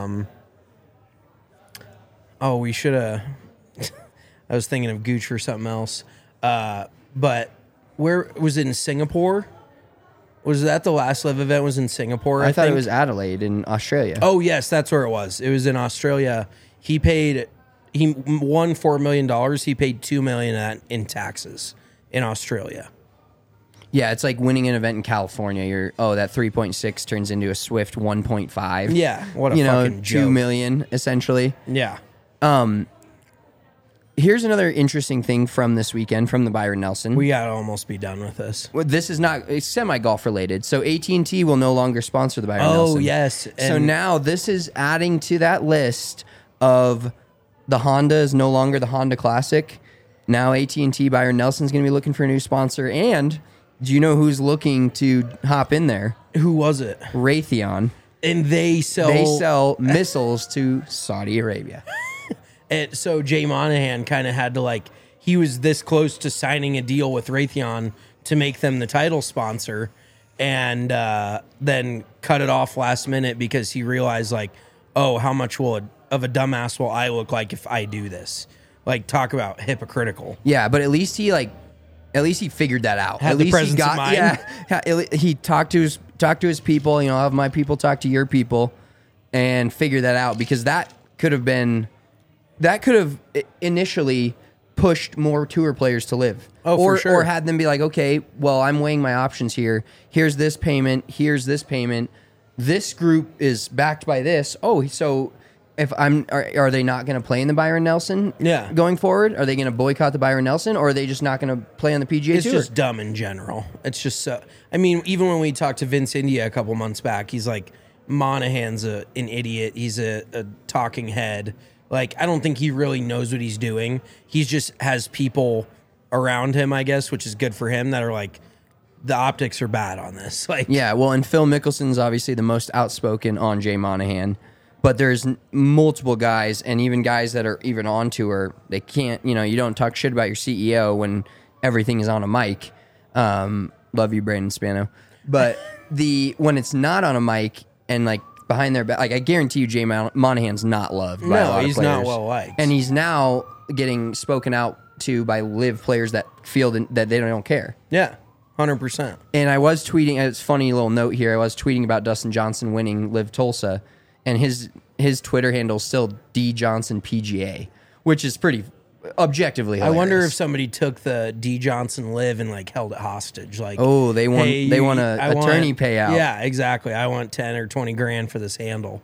We should have. I was thinking of Gooch for something else. But where was it in Singapore? Was that the last Live event was in Singapore?
I thought it was Adelaide in Australia.
Oh yes, that's where it was. It was in Australia. He won $4 million. He paid $2 million in taxes in Australia.
Yeah, it's like winning an event in California. That 3.6 turns into a swift 1.5.
Yeah, what a fucking joke.
$2 million essentially.
Yeah.
Here's another interesting thing from this weekend from the Byron Nelson.
We gotta almost be done with this.
Well, this is it's semi-golf related. So AT&T will no longer sponsor the Byron Nelson.
Oh, yes.
So now this is adding to that list of the Honda is no longer the Honda Classic. Now AT&T Byron Nelson's going to be looking for a new sponsor. And do you know who's looking to hop in there?
Who was it?
Raytheon.
And they sell
missiles to Saudi Arabia.
And so Jay Monahan kind of had to he was this close to signing a deal with Raytheon to make them the title sponsor, and then cut it off last minute because he realized, like, oh, how much of a dumbass will I look like if I do this? Like, talk about hypocritical.
Yeah, but at least he figured that out.
Had
at
the
least
presence of mind.
Yeah, he talked to his people. You know, have my people talk to your people, and figure that out, because that could have initially pushed more tour players to live.
Oh, for sure.
Or had them be like, okay, well, I'm weighing my options here. Here's this payment. Here's this payment. This group is backed by this. Oh, so if are they not going to play in the Byron Nelson?
Yeah.
Going forward, are they going to boycott the Byron Nelson, or are they just not going to play on the PGA
It's
Tour?
just dumb in general. It's just so. I mean, even when we talked to Vince India a couple months back, he's like, Monahan's an idiot. He's a talking head. Like, I don't think he really knows what he's doing. He just has people around him, I guess, which is good for him, that are like, the optics are bad on this. Like,
Yeah, well, and Phil Mickelson's obviously the most outspoken on Jay Monahan, but there's multiple guys, and even guys that are even on tour, they can't, you don't talk shit about your CEO when everything is on a mic. Love you, Brandon Spano. But when it's not on a mic and like behind their back, like, I guarantee you Jay Monahan's not loved by a lot of
he's
players.
not well liked.
And he's now getting spoken out to by live players that feel that they don't care.
Yeah, 100%.
And I was tweeting, it's a funny little note here, I was tweeting about Dustin Johnson winning Live Tulsa, and his Twitter handle is still D Johnson PGA, which is pretty objectively hilarious.
I wonder if somebody took the D Johnson Live and like held it hostage. Like,
oh, they want
hey,
they want an attorney payout.
Yeah, exactly. I want 10 or 20 grand for this handle.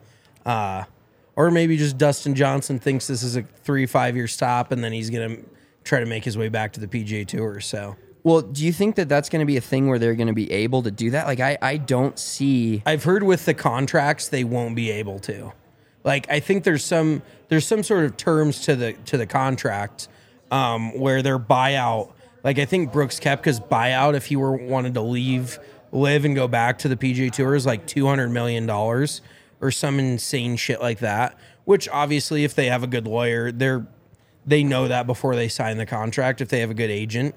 Or maybe just Dustin Johnson thinks this is a 3-5 year stop, and then he's gonna try to make his way back to the PGA Tour. So,
well, do you think that that's going to be a thing where they're going to be able to do that? Like, I don't see.
I've heard with the contracts they won't be able to. Like, I think there's some sort of terms to the contract where their buyout. Like, I think Brooks Koepka's buyout, if he wanted to live and go back to the PGA Tour, is like $200 million or some insane shit like that. Which obviously, if they have a good lawyer, they know that before they sign the contract. If they have a good agent.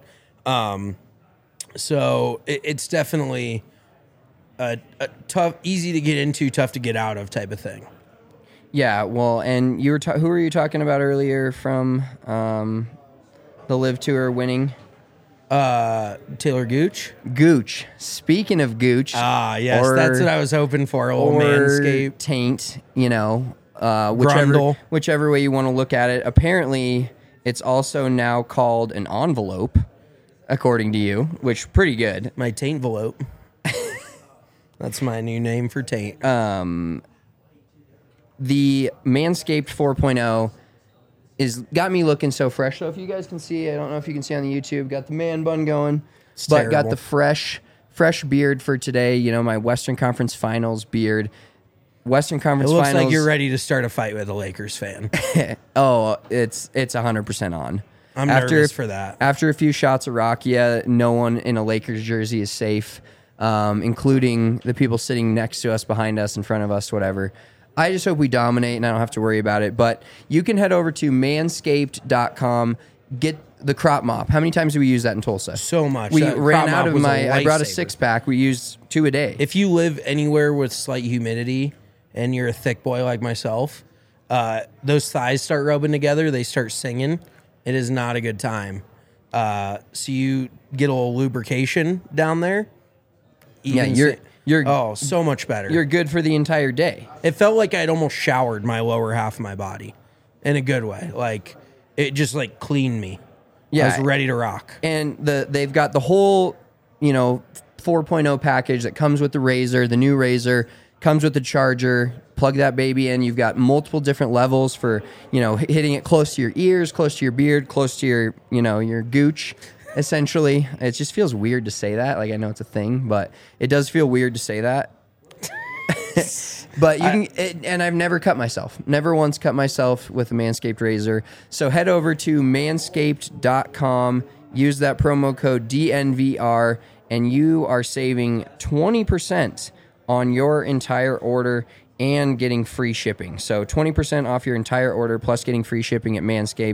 So it's definitely a tough, easy to get into, tough to get out of type of thing.
Yeah, well, and you were who were you talking about earlier from the Live Tour winning?
Taylor Gooch.
Gooch. Speaking of Gooch,
yes, that's what I was hoping for. A little Manscaped
taint,
Grundle.
whichever way you want to look at it. Apparently, it's also now called an envelope, according to you, which pretty good.
My taint envelope. That's my new name for taint.
The Manscaped 4.0 got me looking so fresh. So if you guys can see, I don't know if you can see on the YouTube, got the man bun going, but
terrible.
got the fresh beard for today. My Western Conference Finals beard. Western Conference
It looks
Finals.
like you're ready to start a fight with a Lakers fan.
Oh, it's 100% on.
I'm nervous for that.
After a few shots of Rakia, no one in a Lakers jersey is safe, including the people sitting next to us, behind us, in front of us, whatever. I just hope we dominate and I don't have to worry about it. But you can head over to manscaped.com, get the crop mop. How many times do we use that in Tulsa?
So much.
We
That
ran
crop
out
mop
of
was a
I brought a
lifesaver.
6-pack. We used 2 a day.
If you live anywhere with slight humidity and you're a thick boy like myself, those thighs start rubbing together. They start singing. It is not a good time. So you get a little lubrication down there.
Yeah,
Even
you're
so much better.
You're good for the entire day.
It felt like I'd almost showered my lower half of my body in a good way. Like, it just like cleaned me.
Yeah.
I was ready to rock.
And they've got the whole, 4.0 package that comes with the razor, the new razor, comes with the charger. Plug that baby in. You've got multiple different levels for, hitting it close to your ears, close to your beard, close to your, your gooch. Essentially, it just feels weird to say that. Like, I know it's a thing, but it does feel weird to say that. But you can, and I've never cut myself. Never once cut myself with a Manscaped razor. So head over to manscaped.com, use that promo code DNVR, and you are saving 20% on your entire order and getting free shipping. So 20% off your entire order plus getting free shipping at Manscaped.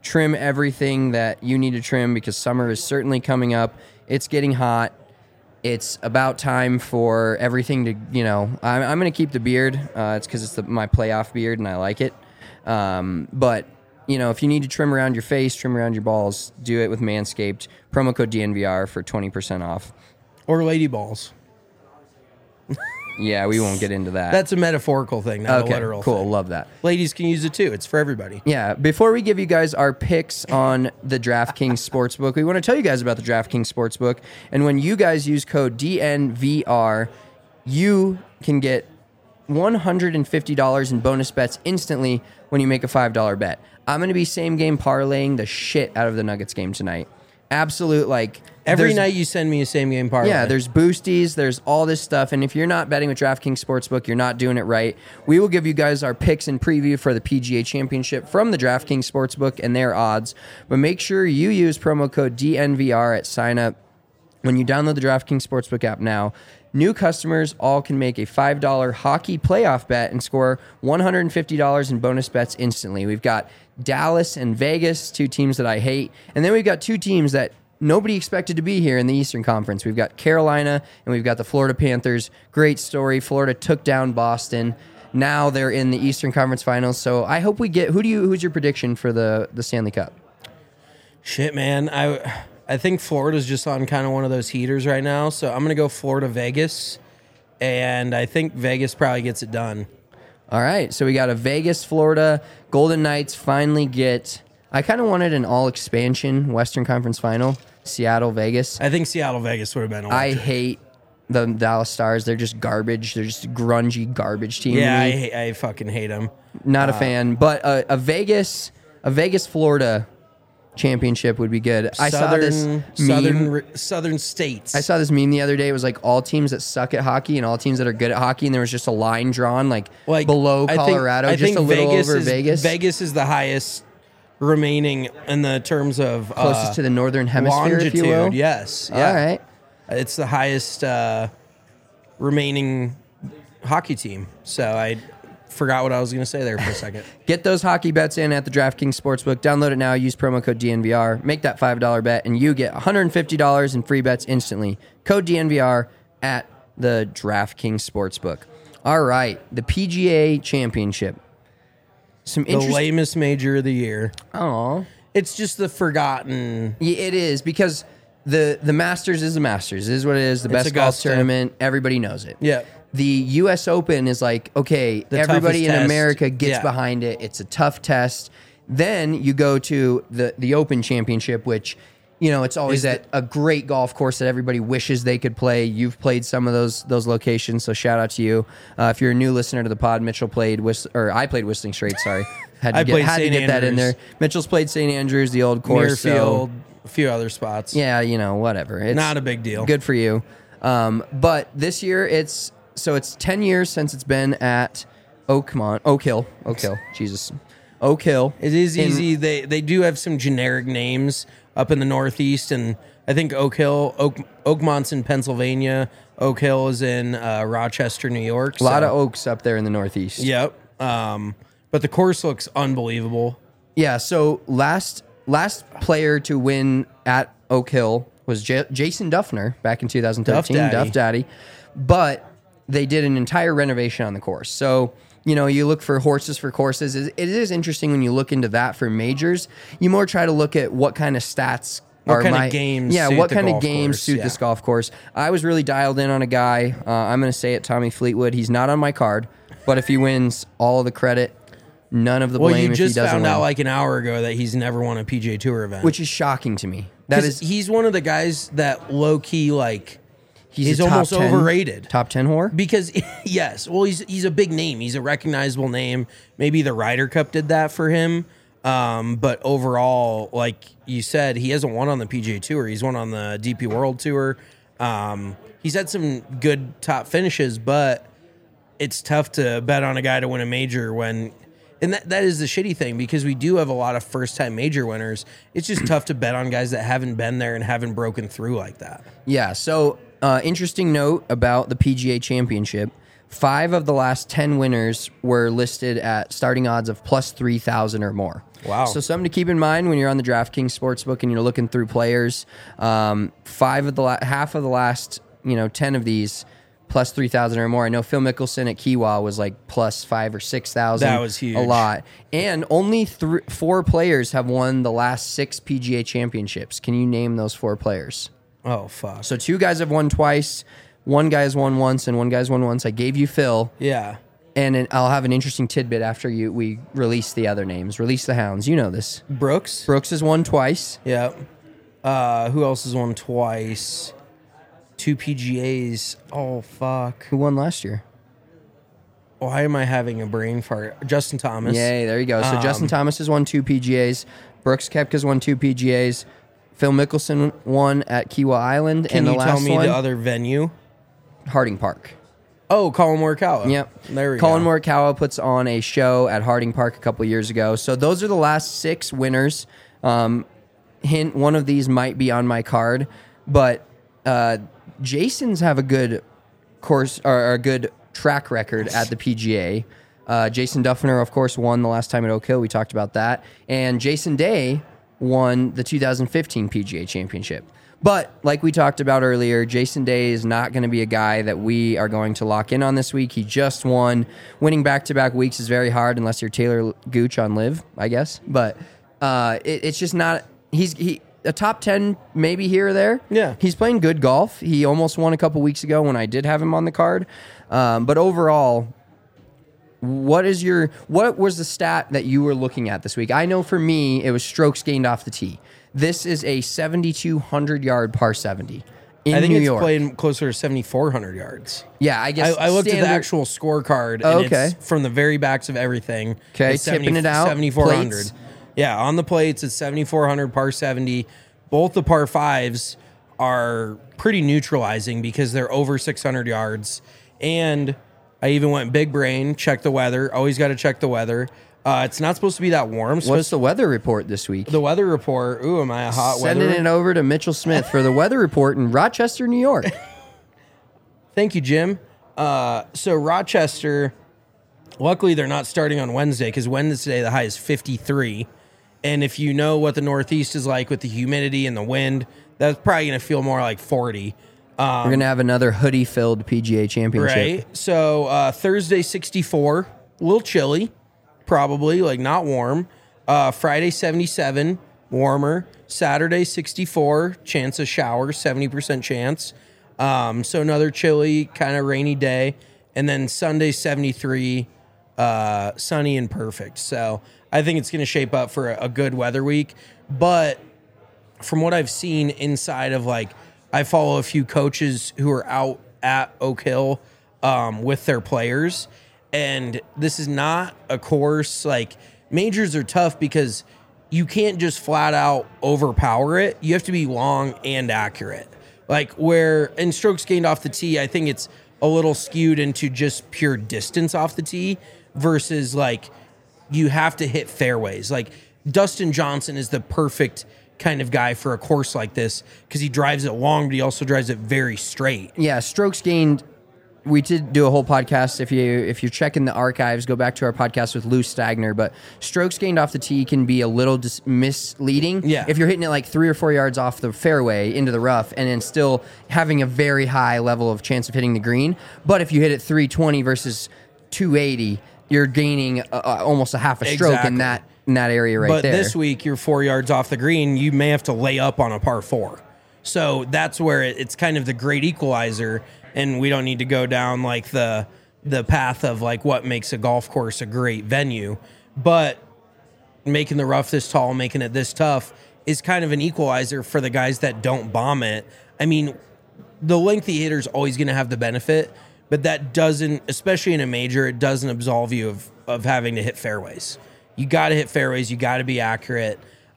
trim everything that you need to trim because summer is certainly coming up. It's getting hot. It's about time for everything to, I'm going to keep the beard. It's because it's my playoff beard and I like it. But, if you need to trim around your face, trim around your balls, do it with Manscaped. Promo code DNVR for 20% off.
Or lady balls.
Yeah, we won't get into that.
That's a metaphorical thing, not a
okay,
literal
cool.
thing.
Love that.
Ladies can use it too. It's for everybody.
Yeah, before we give you guys our picks on the DraftKings Sportsbook, we want to tell you guys about the DraftKings Sportsbook. And when you guys use code DNVR, you can get $150 in bonus bets instantly when you make a $5 bet. I'm going to be same game parlaying the shit out of the Nuggets game tonight. Absolute,
every night you send me a same game parlay.
Yeah, there's boosties, there's all this stuff, and if you're not betting with DraftKings Sportsbook, you're not doing it right. We will give you guys our picks and preview for the PGA Championship from the DraftKings Sportsbook and their odds, but make sure you use promo code DNVR at sign up. When you download the DraftKings Sportsbook app now, new customers all can make a $5 hockey playoff bet and score $150 in bonus bets instantly. We've got Dallas and Vegas, two teams that I hate. And then we've got two teams that nobody expected to be here in the Eastern Conference. We've got Carolina and we've got the Florida Panthers. Great story. Florida took down Boston. Now they're in the Eastern Conference Finals. So I hope we get... Who's your prediction for the Stanley Cup?
Shit, man. I think Florida's just on kind of one of those heaters right now. So I'm going to go Florida-Vegas. And I think Vegas probably gets it done.
All right, so we got a Vegas, Florida. Golden Knights finally get... I kind of wanted an all-expansion Western Conference Final. Seattle, Vegas.
I think Seattle-Vegas would have been
I
electric.
hate the Dallas Stars. They're just garbage. They're just a grungy garbage team.
Yeah,
to me.
I fucking hate them.
Not a fan. But a Vegas, Florida championship would be good. I saw this meme.
Southern states.
I saw this meme the other day. It was like all teams that suck at hockey and all teams that are good at hockey, and there was just a line drawn like below Colorado,
I think
just a little
Vegas
over
is,
Vegas.
Vegas is the highest remaining in the terms of
closest to the northern hemisphere,
longitude.
if you will.
Yes. Yeah.
All right.
It's the highest remaining hockey team. So I forgot what I was going to say there for a second.
Get those hockey bets in at the DraftKings Sportsbook. Download it now. Use promo code DNVR. Make that $5 bet, and you get $150 in free bets instantly. Code DNVR at the DraftKings Sportsbook. All right, the PGA Championship.
The lamest major of the year.
Oh,
it's just the forgotten.
Yeah, it is because the Masters is the Masters. It is what it is. The best golf tournament. Everybody knows it.
Yeah.
The U.S. Open is like, okay, everybody in America gets
Yeah.
behind it. It's a tough test. Then you go to the Open Championship, which, it's always at a great golf course that everybody wishes they could play. You've played some of those locations, so shout out to you. If you're a new listener to the pod, Mitchell played I played Whistling Straits. Sorry, had to get that in there. Mitchell's played St. Andrews, the old course,
Muirfield, a few other spots.
Yeah, whatever. It's
not a big deal.
Good for you. But this year it's 10 years since it's been at Oak Hill. Jesus. Oak Hill.
It is easy. They do have some generic names up in the Northeast, and I think Oakmont's in Pennsylvania. Oak Hill is in Rochester, New York.
A lot of oaks up there in the Northeast.
Yep. But the course looks unbelievable.
Yeah, so last player to win at Oak Hill was Jason Duffner back in 2013. Duff Daddy. But they did an entire renovation on the course. So, you look for horses for courses. It is interesting when you look into that for majors. You more try to look at what kind of stats
what kind of games
suit this golf course. I was really dialed in on a guy. I'm going to say it, Tommy Fleetwood. He's not on my card, but if he wins, all of the credit, none of the blame if he doesn't win.
You just found out like an hour ago that he's never won a PGA Tour event.
Which is shocking to me.
He's one of the guys that low-key, he's
a
almost
10,
overrated.
Top 10 whore?
Because, yes. Well, he's a big name. He's a recognizable name. Maybe the Ryder Cup did that for him. But overall, like you said, he hasn't won on the PGA Tour. He's won on the DP World Tour. He's had some good top finishes, but it's tough to bet on a guy to win a major when... And that is the shitty thing, because we do have a lot of first-time major winners. It's just tough to bet on guys that haven't been there and haven't broken through like that.
Yeah, so... interesting note about the PGA Championship. 5 of the last 10 winners were listed at starting odds of plus 3,000 or more.
Wow.
So something to keep in mind when you're on the DraftKings Sportsbook and you're looking through players. Half of the last 10 of these plus 3,000 or more. I know Phil Mickelson at Kiawah was like plus 5,000 or 6,000.
That was huge.
A lot. And only 4 players have won the last 6 PGA championships. Can you name those 4 players?
Oh, fuck.
So 2 guys have won twice. 1 guy's won once, and 1 guy's won once. I gave you Phil.
Yeah.
And I'll have an interesting tidbit after we release the other names. Release the hounds. You know this.
Brooks?
Brooks has won twice.
Yeah. Who else has won twice? 2 PGAs. Oh, fuck.
Who won last year?
Why am I having a brain fart? Justin Thomas.
Yay, there you go. So Justin Thomas has won 2 PGAs. Brooks Koepka's won 2 PGAs. Phil Mickelson won at Kiawah Island.
Can
and the
you
last
tell me
one,
the other venue?
Harding Park.
Oh, Colin Morikawa.
Yep.
There we
Colin
go.
Morikawa puts on a show at Harding Park a couple years ago. So those are the last 6 winners. Hint, one of these might be on my card. But Jason's have a good course or a good track record at the PGA. Jason Duffner, of course, won the last time at Oak Hill. We talked about that. And Jason Day won the 2015 PGA Championship. But like we talked about earlier, Jason Day is not going to be a guy that we are going to lock in on this week. He just won. Winning back-to-back weeks is very hard unless you're Taylor Gooch on Live, I guess. But it's just not. He's a top 10 maybe here or there.
Yeah.
He's playing good golf. He almost won a couple weeks ago when I did have him on the card. But overall, what was the stat that you were looking at this week? I know for me, it was strokes gained off the tee. This is a 7,200-yard par 70 in
I think
New
it's
York.
playing closer to 7,400 yards.
Yeah, I guess.
I looked at the
standard-
actual scorecard, and
Oh, okay.
it's from the very backs of everything.
Okay,
It's
tipping it out,
7,400.
plates?
Yeah, on the plates, it's 7,400 par 70. Both the par 5s are pretty neutralizing because they're over 600 yards. And I even went big brain, check the weather. Always got to check the weather. It's not supposed to be that warm.
What's the weather report this week?
The weather report? Ooh, am I a hot
Sending
weather?
it over to Mitchell Smith for the weather report in Rochester, New York.
Thank you, Jim. So Rochester, luckily they're not starting on Wednesday because Wednesday the high is 53. And if you know what the Northeast is like with the humidity and the wind, that's probably going to feel more like 40.
We're going to have another hoodie-filled PGA Championship.
Right. So Thursday, 64, a little chilly, probably, like not warm. Friday, 77, warmer. Saturday, 64, chance of shower, 70% chance. So another chilly, kind of rainy day. And then Sunday, 73, sunny and perfect. So I think it's going to shape up for a good weather week. But from what I've seen inside of I follow a few coaches who are out at Oak Hill with their players. And this is not a course majors are tough because you can't just flat out overpower it. You have to be long and accurate. Where in strokes gained off the tee, I think it's a little skewed into just pure distance off the tee versus you have to hit fairways. Dustin Johnson is the perfect kind of guy for a course like this because he drives it long, but he also drives it very straight.
Yeah, strokes gained. We did do a whole podcast. If you're checking the archives, go back to our podcast with Lou Stagner. But strokes gained off the tee can be a little misleading.
Yeah.
If you're hitting it 3 or 4 yards off the fairway into the rough, and then still having a very high level of chance of hitting the green. But if you hit it 320 versus 280, you're gaining almost a half a stroke
Exactly.
in that area right
but
there.
this week, you're 4 yards off the green. You may have to lay up on a par 4. So that's where it's kind of the great equalizer. And we don't need to go down the path of what makes a golf course a great venue. But making the rough this tall, making it this tough is kind of an equalizer for the guys that don't bomb it. I mean, the lengthy hitter's always going to have the benefit, but that doesn't, especially in a major, it doesn't absolve you of having to hit fairways. You got to hit fairways. You got to be accurate.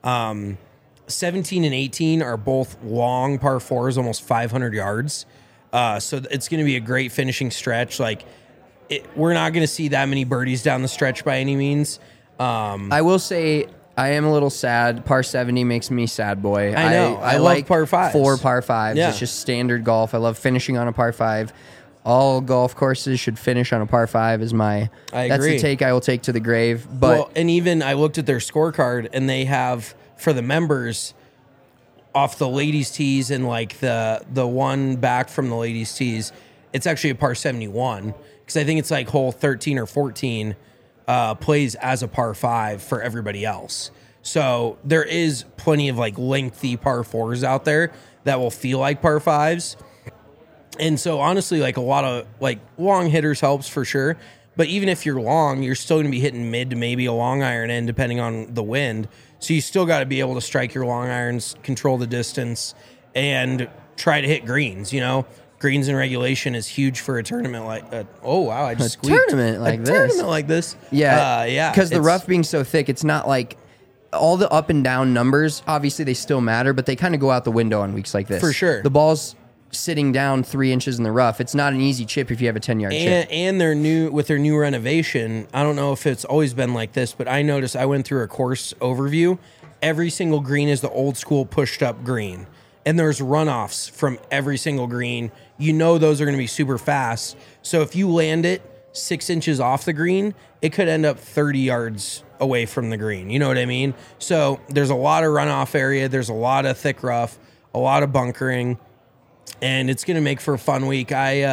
17 and 18 are both long par 4s, almost 500 yards. So it's going to be a great finishing stretch. We're not going to see that many birdies down the stretch by any means.
I will say I am a little sad. Par 70 makes me sad, boy.
I know. I love
like
par 5s.
4 par 5s.
Yeah.
It's just standard golf. I love finishing on a par 5. all golf courses should finish on a par 5 is
I
that's
agree.
the take I will take to the grave. But
Well, and even I looked at their scorecard, and they have for the members off the ladies' tees and like the one back from the ladies' tees, it's actually a par 71 because I think it's like hole 13 or 14 plays as a par 5 for everybody else. So there is plenty of like lengthy par 4s out there that will feel like par 5s. And so honestly, like a lot of like long hitters helps for sure. But even if you're long, you're still going to be hitting mid to maybe a long iron in depending on the wind. So you still got to be able to strike your long irons, control the distance, and try to hit greens. You know, greens in regulation is huge for a tournament like. Oh wow! I just squeaked.
tournament like
a
this.
Tournament like this.
yeah,
yeah.
because the
it's-
rough being so thick, it's not like all the up and down numbers. Obviously, they still matter, but they kind of go out the window on weeks like this.
For sure.
the ball's sitting down 3 inches in the rough. It's not an easy chip if you have a 10-yard chip.
And their new renovation, I don't know if it's always been like this, but I noticed I went through a course overview. Every single green is the old school pushed up green. And there's runoffs from every single green. You know those are going to be super fast. So if you land it 6 inches off the green, it could end up 30 yards away from the green. You know what I mean? So there's a lot of runoff area. There's a lot of thick rough, a lot of bunkering. And it's going to make for a fun week.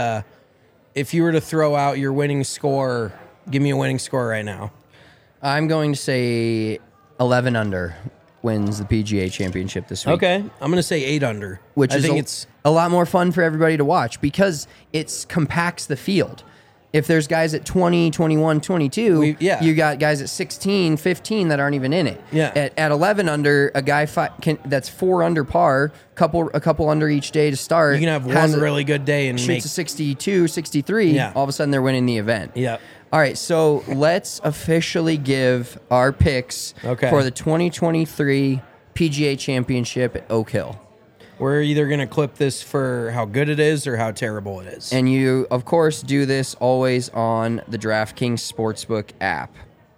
If you were to throw out your winning score, give me a winning score right now.
I'm going to say 11 under wins the PGA Championship this week.
Okay, I'm going to say 8 under.
Which
I
is
think
a,
it's
a lot more fun for everybody to watch because it compacts the field. If there's guys at 20, 21, 22, you got guys at 16, 15 that aren't even in it.
Yeah.
At 11 under, a guy that's 4 under par, a couple under each day to start.
you can have one really good day and
shoots
make
a 62, 63.
Yeah.
All of a sudden they're winning the event.
Yep.
All right, so let's officially give our picks for the 2023 PGA Championship at Oak Hill.
We're either going to clip this for how good it is or how terrible it is.
And you, of course, do this always on the DraftKings Sportsbook app.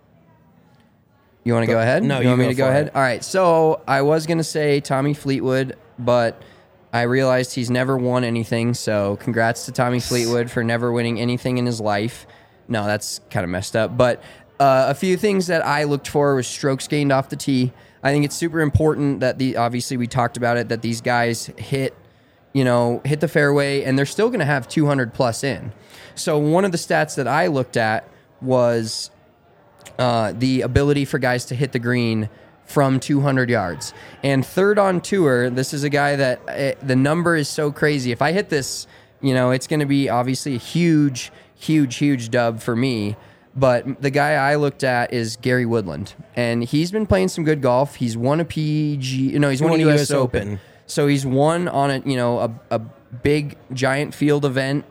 You want to go ahead?
No,
you want
you
me to
go
go
for
ahead?
it.
All right, so I was going to say Tommy Fleetwood, but I realized he's never won anything, so congrats to Tommy Fleetwood for never winning anything in his life. No, that's kind of messed up. But a few things that I looked for was strokes gained off the tee. I think it's super important that obviously we talked about it, that these guys hit the fairway, and they're still going to have 200 plus in. So one of the stats that I looked at was the ability for guys to hit the green from 200 yards. And third on tour, this is a guy that the number is so crazy. If I hit this, it's going to be obviously a huge, huge, huge dub for me. But the guy I looked at is Gary Woodland, and he's been playing some good golf. He's won a he's won a U.S. Open. So he's won on a big giant field event.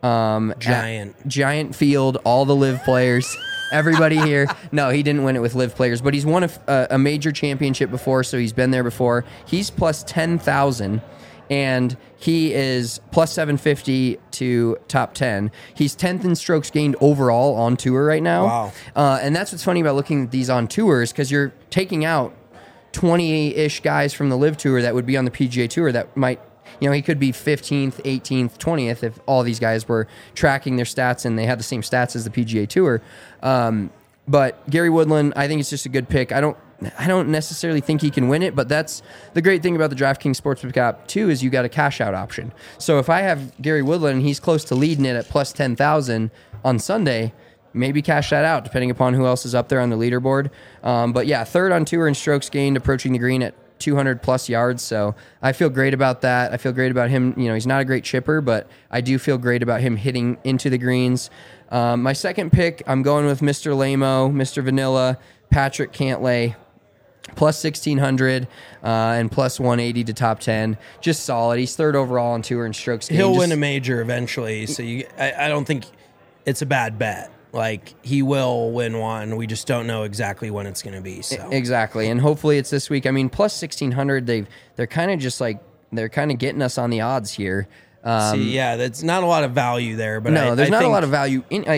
Giant field, all the live players, everybody here. No, he didn't win it with live players, but he's won a major championship before, so he's been there before. He's plus 10,000. And he is plus 750 to top 10. He's 10th in strokes gained overall on tour right now.
Wow.
And that's what's funny about looking at these on tours, because you're taking out 20-ish guys from the live tour that would be on the PGA Tour that might, he could be 15th, 18th, 20th if all these guys were tracking their stats and they had the same stats as the PGA Tour. But Gary Woodland, I think it's just a good pick. I don't necessarily think he can win it, but that's the great thing about the DraftKings Sportsbook app too, is you got a cash out option. So if I have Gary Woodland and he's close to leading it at plus 10,000 on Sunday, maybe cash that out depending upon who else is up there on the leaderboard. But yeah, third on tour in strokes gained, approaching the green at 200 plus yards. So I feel great about that. I feel great about him. He's not a great chipper, but I do feel great about him hitting into the greens. My second pick, I'm going with Mr. Lamo, Mr. Vanilla, Patrick Cantlay. Plus 1,600 and plus 180 to top 10. Just solid. He's third overall on tour in strokes gained.
He'll win a major eventually, so I don't think it's a bad bet. Like, he will win one. We just don't know exactly when it's going to be. So
exactly, and hopefully it's this week. I mean, plus 1,600. They're kind of just like they're kind of getting us on the odds here.
that's not a lot of value there. But
no, there's not a lot of value in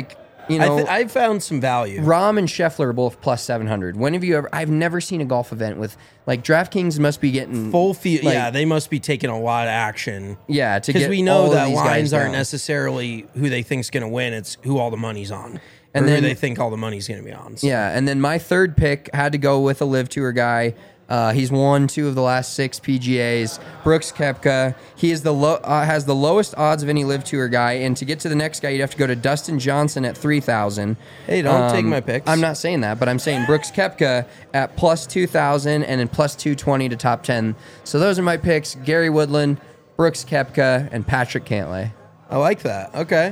you know,
I found some value.
Rahm and Scheffler are both plus 700. When have you ever? I've never seen a golf event with like DraftKings must be getting
Full field.
like,
Yeah, they must be taking a lot of action.
Yeah, to
because
get
we know
all
that
of these
lines
guys
aren't
down.
necessarily who they think's going to win. It's who all the money's on,
And
or
then-
who they think all the money's going to be on. So.
Yeah, and then my third pick had to go with a Live Tour guy. He's won 2 of the last 6 PGAs. Brooks Koepka. He is has the lowest odds of any Live Tour guy. And to get to the next guy, you'd have to go to Dustin Johnson at 3,000.
Hey, don't take my picks.
I'm not saying that, but I'm saying Brooks Koepka at plus 2,000 and then plus 220 to top 10. So those are my picks: Gary Woodland, Brooks Koepka, and Patrick Cantlay.
I like that. Okay.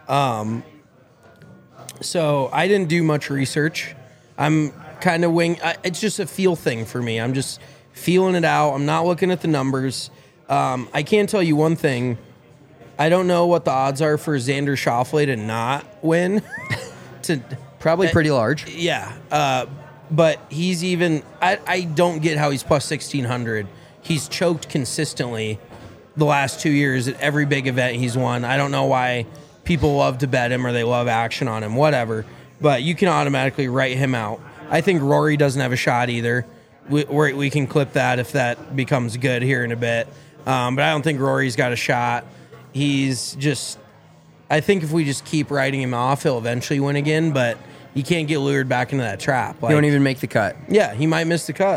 So I didn't do much research. I'm kind of it's just a feel thing for me. I'm just feeling it out. I'm not looking at the numbers. I can tell you one thing. I don't know what the odds are for Xander Schauffele to not win.
Probably pretty large.
Yeah. But he's even... I don't get how he's plus 1,600. He's choked consistently the last 2 years at every big event he's won. I don't know why people love to bet him or they love action on him, whatever. But you can automatically write him out. I think Rory doesn't have a shot either. We can clip that if that becomes good here in a bit. But I don't think Rory's got a shot. He's just... I think if we just keep writing him off, he'll eventually win again, but you can't get lured back into that trap.
He won't even make the cut.
Yeah, he might miss the cut.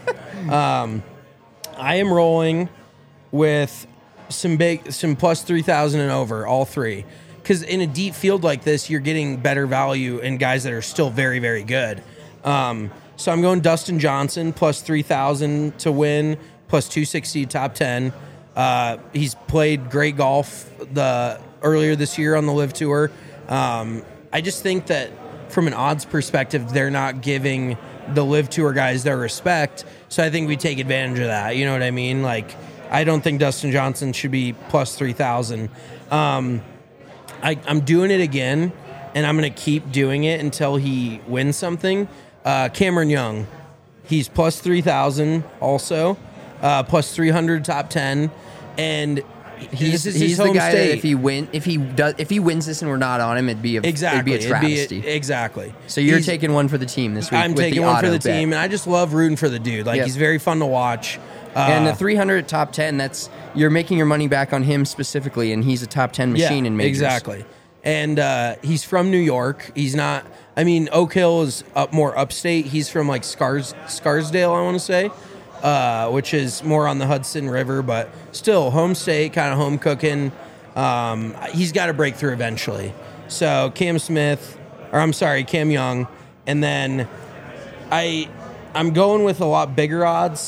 I am rolling with some plus 3,000 and over, all three. Because in a deep field like this, you're getting better value in guys that are still very, very good. So I'm going Dustin Johnson, plus 3,000 to win, plus 260 top 10. He's played great golf earlier this year on the Live Tour. I just think that from an odds perspective, they're not giving the Live Tour guys their respect. So I think we take advantage of that. You know what I mean? Like, I don't think Dustin Johnson should be plus 3,000. I'm doing it again, and I'm going to keep doing it until he wins something. Cameron Young, he's plus 3,000 also, plus 300 top 10, and
He's
his
the
home
guy
state.
that if he wins this and we're not on him, it'd be a travesty.
Exactly.
So you're taking one for the team this week.
I'm
with
taking
the
one for the
auto bet.
team, and I just love rooting for the dude. Like, he's very fun to watch.
And the 300 top 10, you're making your money back on him specifically, and he's a top 10 machine in majors.
Exactly. And he's from New York. He's not. I mean, Oak Hill is more upstate. He's from like Scarsdale, I want to say, which is more on the Hudson River, but still home state, kind of home cooking. He's got to break through eventually. So Cam Young, and then I'm going with a lot bigger odds.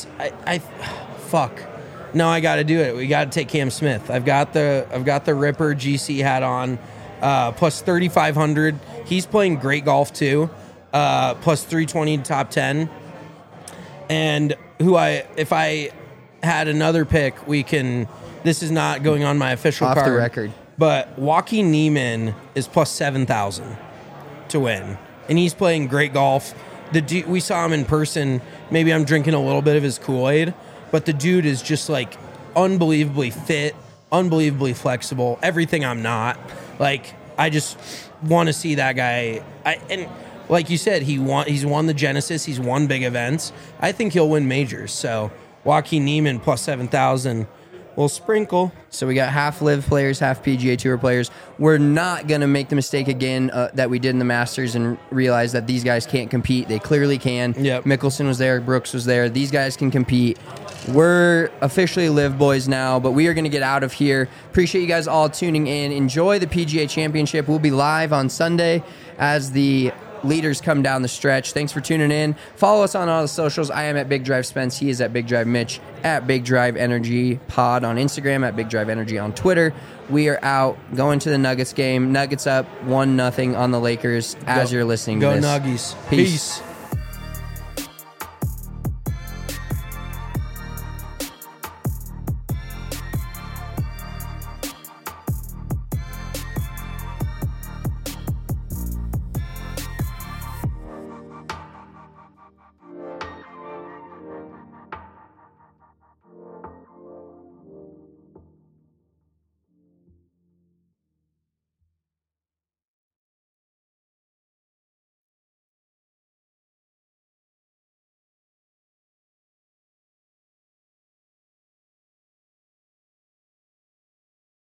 No, I got to do it. We got to take Cam Smith. I've got the Ripper GC hat on, plus 3,500. He's playing great golf too, plus 320 top 10. And if I had another pick, this is not going on my official
Off
card.
the record.
But Joaquin Niemann is plus 7,000 to win. And he's playing great golf. We saw him in person. Maybe I'm drinking a little bit of his Kool-Aid, but the dude is just like unbelievably fit, unbelievably flexible, everything I'm not. Like, I just want to see that guy. And like you said, he's won the Genesis, he's won big events. I think he'll win majors. So Joaquin Niemann plus 7,000 will sprinkle.
So we got half Live players, half PGA Tour players. We're not going to make the mistake again that we did in the Masters and realize that these guys can't compete. They clearly can.
Yep.
Mickelson was there. Brooks was there. These guys can compete. We're officially Live boys now, but we are going to get out of here. Appreciate you guys all tuning in. Enjoy the PGA Championship. We'll be live on Sunday as the leaders come down the stretch. Thanks for tuning in. Follow us on all the socials. I am at Big Drive Spence. He is at Big Drive Mitch, at Big Drive Energy Pod on Instagram, at Big Drive Energy on Twitter. We are out going to the Nuggets game. Nuggets up 1-0 on the Lakers as you're listening to this.
Go Nuggies.
Peace.